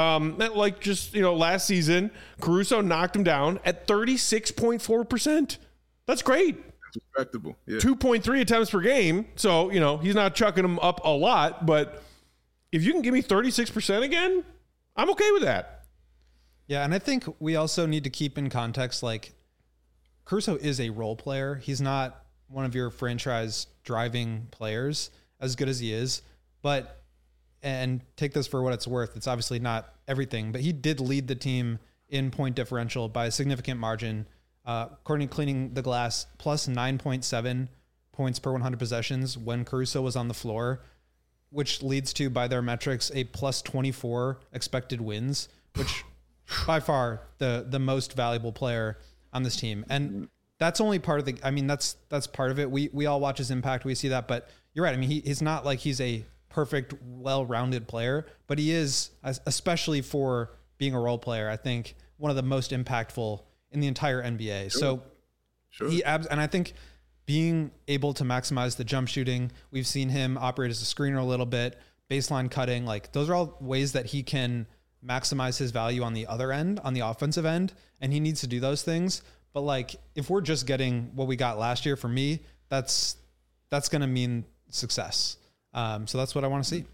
last season, Caruso knocked him down at 36.4%. That's great. That's respectable. Yeah. 2.3 attempts per game. So, he's not chucking them up a lot, but if you can give me 36% again, I'm okay with that. Yeah, and I think we also need to keep in context, like, Caruso is a role player. He's not one of your franchise driving players, as good as he is. But, and take this for what it's worth, it's obviously not everything, but he did lead the team in point differential by a significant margin. According to Cleaning the Glass, plus 9.7 points per 100 possessions when Caruso was on the floor, which leads to, by their metrics, a plus 24 expected wins, which by far the most valuable player on this team. And that's only part of that's part of it. We all watch his impact. We see that, but you're right. I mean, he's not like he's a perfect, well-rounded player, but he is, especially for being a role player, I think one of the most impactful in the entire NBA. Sure. So and I think being able to maximize the jump shooting, we've seen him operate as a screener a little bit, baseline cutting, like those are all ways that he can maximize his value on the other end, on the offensive end, and he needs to do those things. But like, if we're just getting what we got last year, for me, that's going to mean success. So that's what I want to see.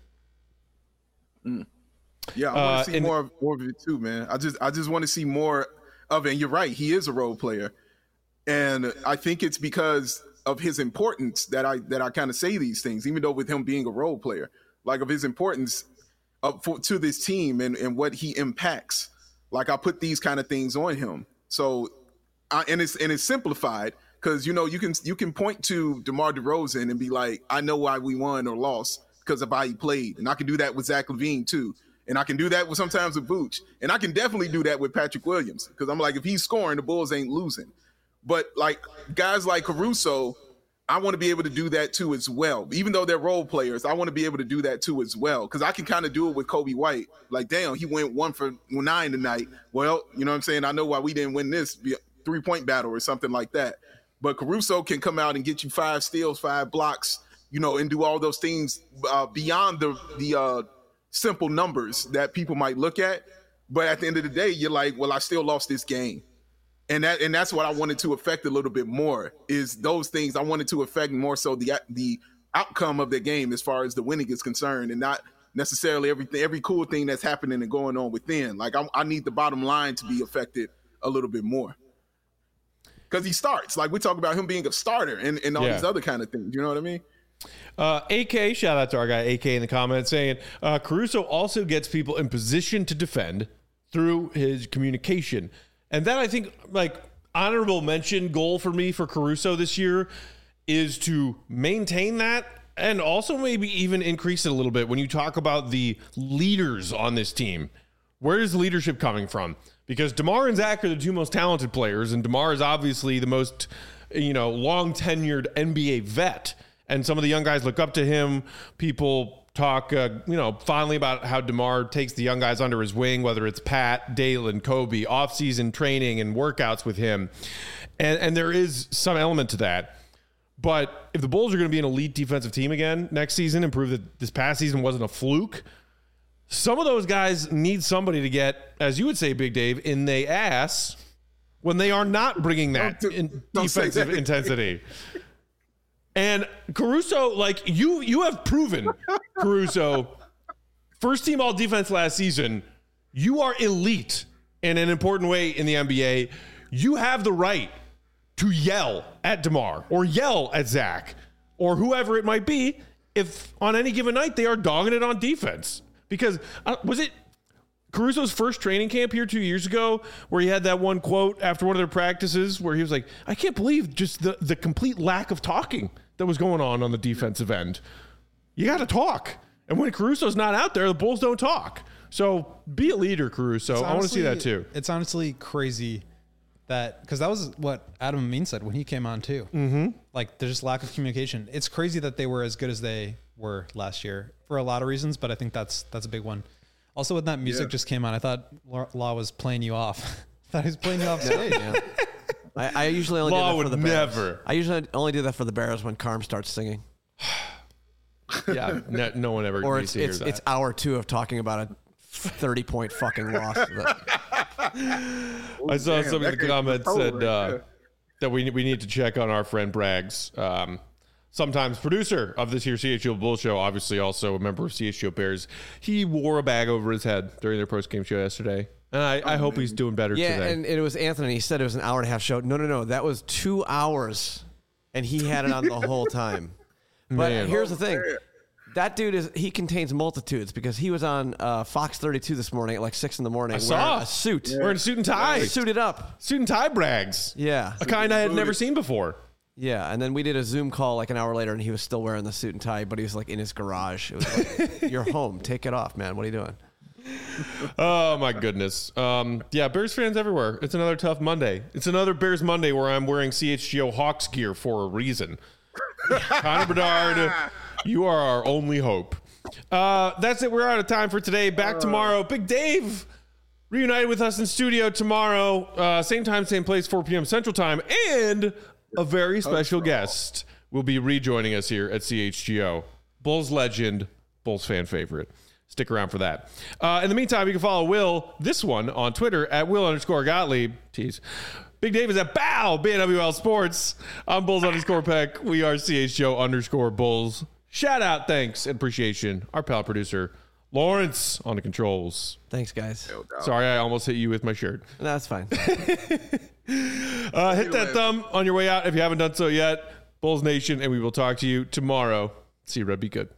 Yeah, I want to see more of it too, man. I just want to see more of it. And you're right, he is a role player, and I think it's because of his importance that I kind of say these things, even though with him being a role player, like of his importance to this team and what he impacts. Like I put these kind of things on him. So, and it's simplified because you can point to DeMar DeRozan and be like, I know why we won or lost because of how he played, and I can do that with Zach LaVine too, and I can do that with sometimes with Vooch, and I can definitely do that with Patrick Williams because I'm like, if he's scoring, the Bulls ain't losing. But like guys like Caruso, I want to be able to do that too as well. Even though they're role players, I want to be able to do that too as well. Because I can kind of do it with Kobe White. Like, damn, he went 1 for 9 tonight. Well, you know what I'm saying? I know why we didn't win this 3-point battle or something like that. But Caruso can come out and get you 5 steals, 5 blocks, and do all those things beyond the simple numbers that people might look at. But at the end of the day, you're like, well, I still lost this game. And that's what I wanted to affect a little bit more, is those things. I wanted to affect more so the outcome of the game as far as the winning is concerned, and not necessarily every cool thing that's happening and going on within. Like I need the bottom line to be affected a little bit more. Because he starts. Like we talk about him being a starter and all these other kind of things. You know what I mean? AK, shout out to our guy AK in the comments saying, Caruso also gets people in position to defend through his communication. And that, I think, like, honorable mention goal for me for Caruso this year is to maintain that and also maybe even increase it a little bit when you talk about the leaders on this team. Where is leadership coming from? Because DeMar and Zach are the 2 most talented players, and DeMar is obviously the most, long tenured NBA vet. And some of the young guys look up to him. People talk, fondly about how DeMar takes the young guys under his wing, whether it's Pat, Dalen, Kobe, off-season training and workouts with him. And there is some element to that. But if the Bulls are going to be an elite defensive team again next season and prove that this past season wasn't a fluke, some of those guys need somebody to get, as you would say, Big Dave, in the ass when they are not bringing that defensive intensity. And Caruso, like you have proven, Caruso, first team all defense last season, you are elite in an important way in the NBA. You have the right to yell at DeMar or yell at Zach or whoever it might be if on any given night they are dogging it on defense. Because was it Caruso's first training camp here 2 years ago where he had that one quote after one of their practices where he was like, I can't believe just the complete lack of talking that was going on the defensive end. You got to talk. And when Caruso's not out there, the Bulls don't talk. So be a leader, Caruso. I want to see that too. It's honestly crazy that, because that was what Adam Amin said when he came on too. Mm-hmm. Like there's just lack of communication. It's crazy that they were as good as they were last year for a lot of reasons, but I think that's a big one. Also, when that music just came on, I thought Law was playing you off. I thought he was playing you off stage. Yeah. I usually only do that for the Bears. I usually only do that for the Bears when Carm starts singing. Yeah, no one ever or needs to hear that. It's hour 2 of talking about a 30-point fucking loss. I saw somebody in the comments said, that we need to check on our friend Braggs. Sometimes producer of this here CHGO Bull Show, obviously also a member of CHGO Bears. He wore a bag over his head during their post-game show yesterday. And I hope he's doing better today. Yeah, and it was Anthony. He said it was an hour and a half show. No. That was 2 hours, and he had it on the whole time. But here's the thing. That dude he contains multitudes because he was on Fox 32 this morning at like 6 a.m. I saw a suit. Wearing a suit and tie. Suited up. Suit and tie Braggs. Yeah. A kind I had never seen before. Yeah, and then we did a Zoom call like an hour later, and he was still wearing the suit and tie, but he was like in his garage. It was like, you're home. Take it off, man. What are you doing? Oh, my goodness. Yeah, Bears fans everywhere. It's another tough Monday. It's another Bears Monday where I'm wearing CHGO Hawks gear for a reason. Connor Bedard, you are our only hope. That's it. We're out of time for today. Back tomorrow. Big Dave reunited with us in studio tomorrow. Same time, same place, 4 p.m. Central Time. And a very special guest will be rejoining us here at CHGO. Bulls legend, Bulls fan favorite. Stick around for that. In the meantime, you can follow Will, this one, on Twitter at Will_Gottlieb. Tease. Big Dave is at BNWL Sports. I'm Bulls_Peck. We are CHGO_Bulls. Shout out, thanks, and appreciation. Our pal producer, Lawrence, on the controls. Thanks, guys. Sorry, I almost hit you with my shirt. No, that's fine. Hit that thumb on your way out if you haven't done so yet. Bulls Nation, and we will talk to you tomorrow. See you, Red. Be good.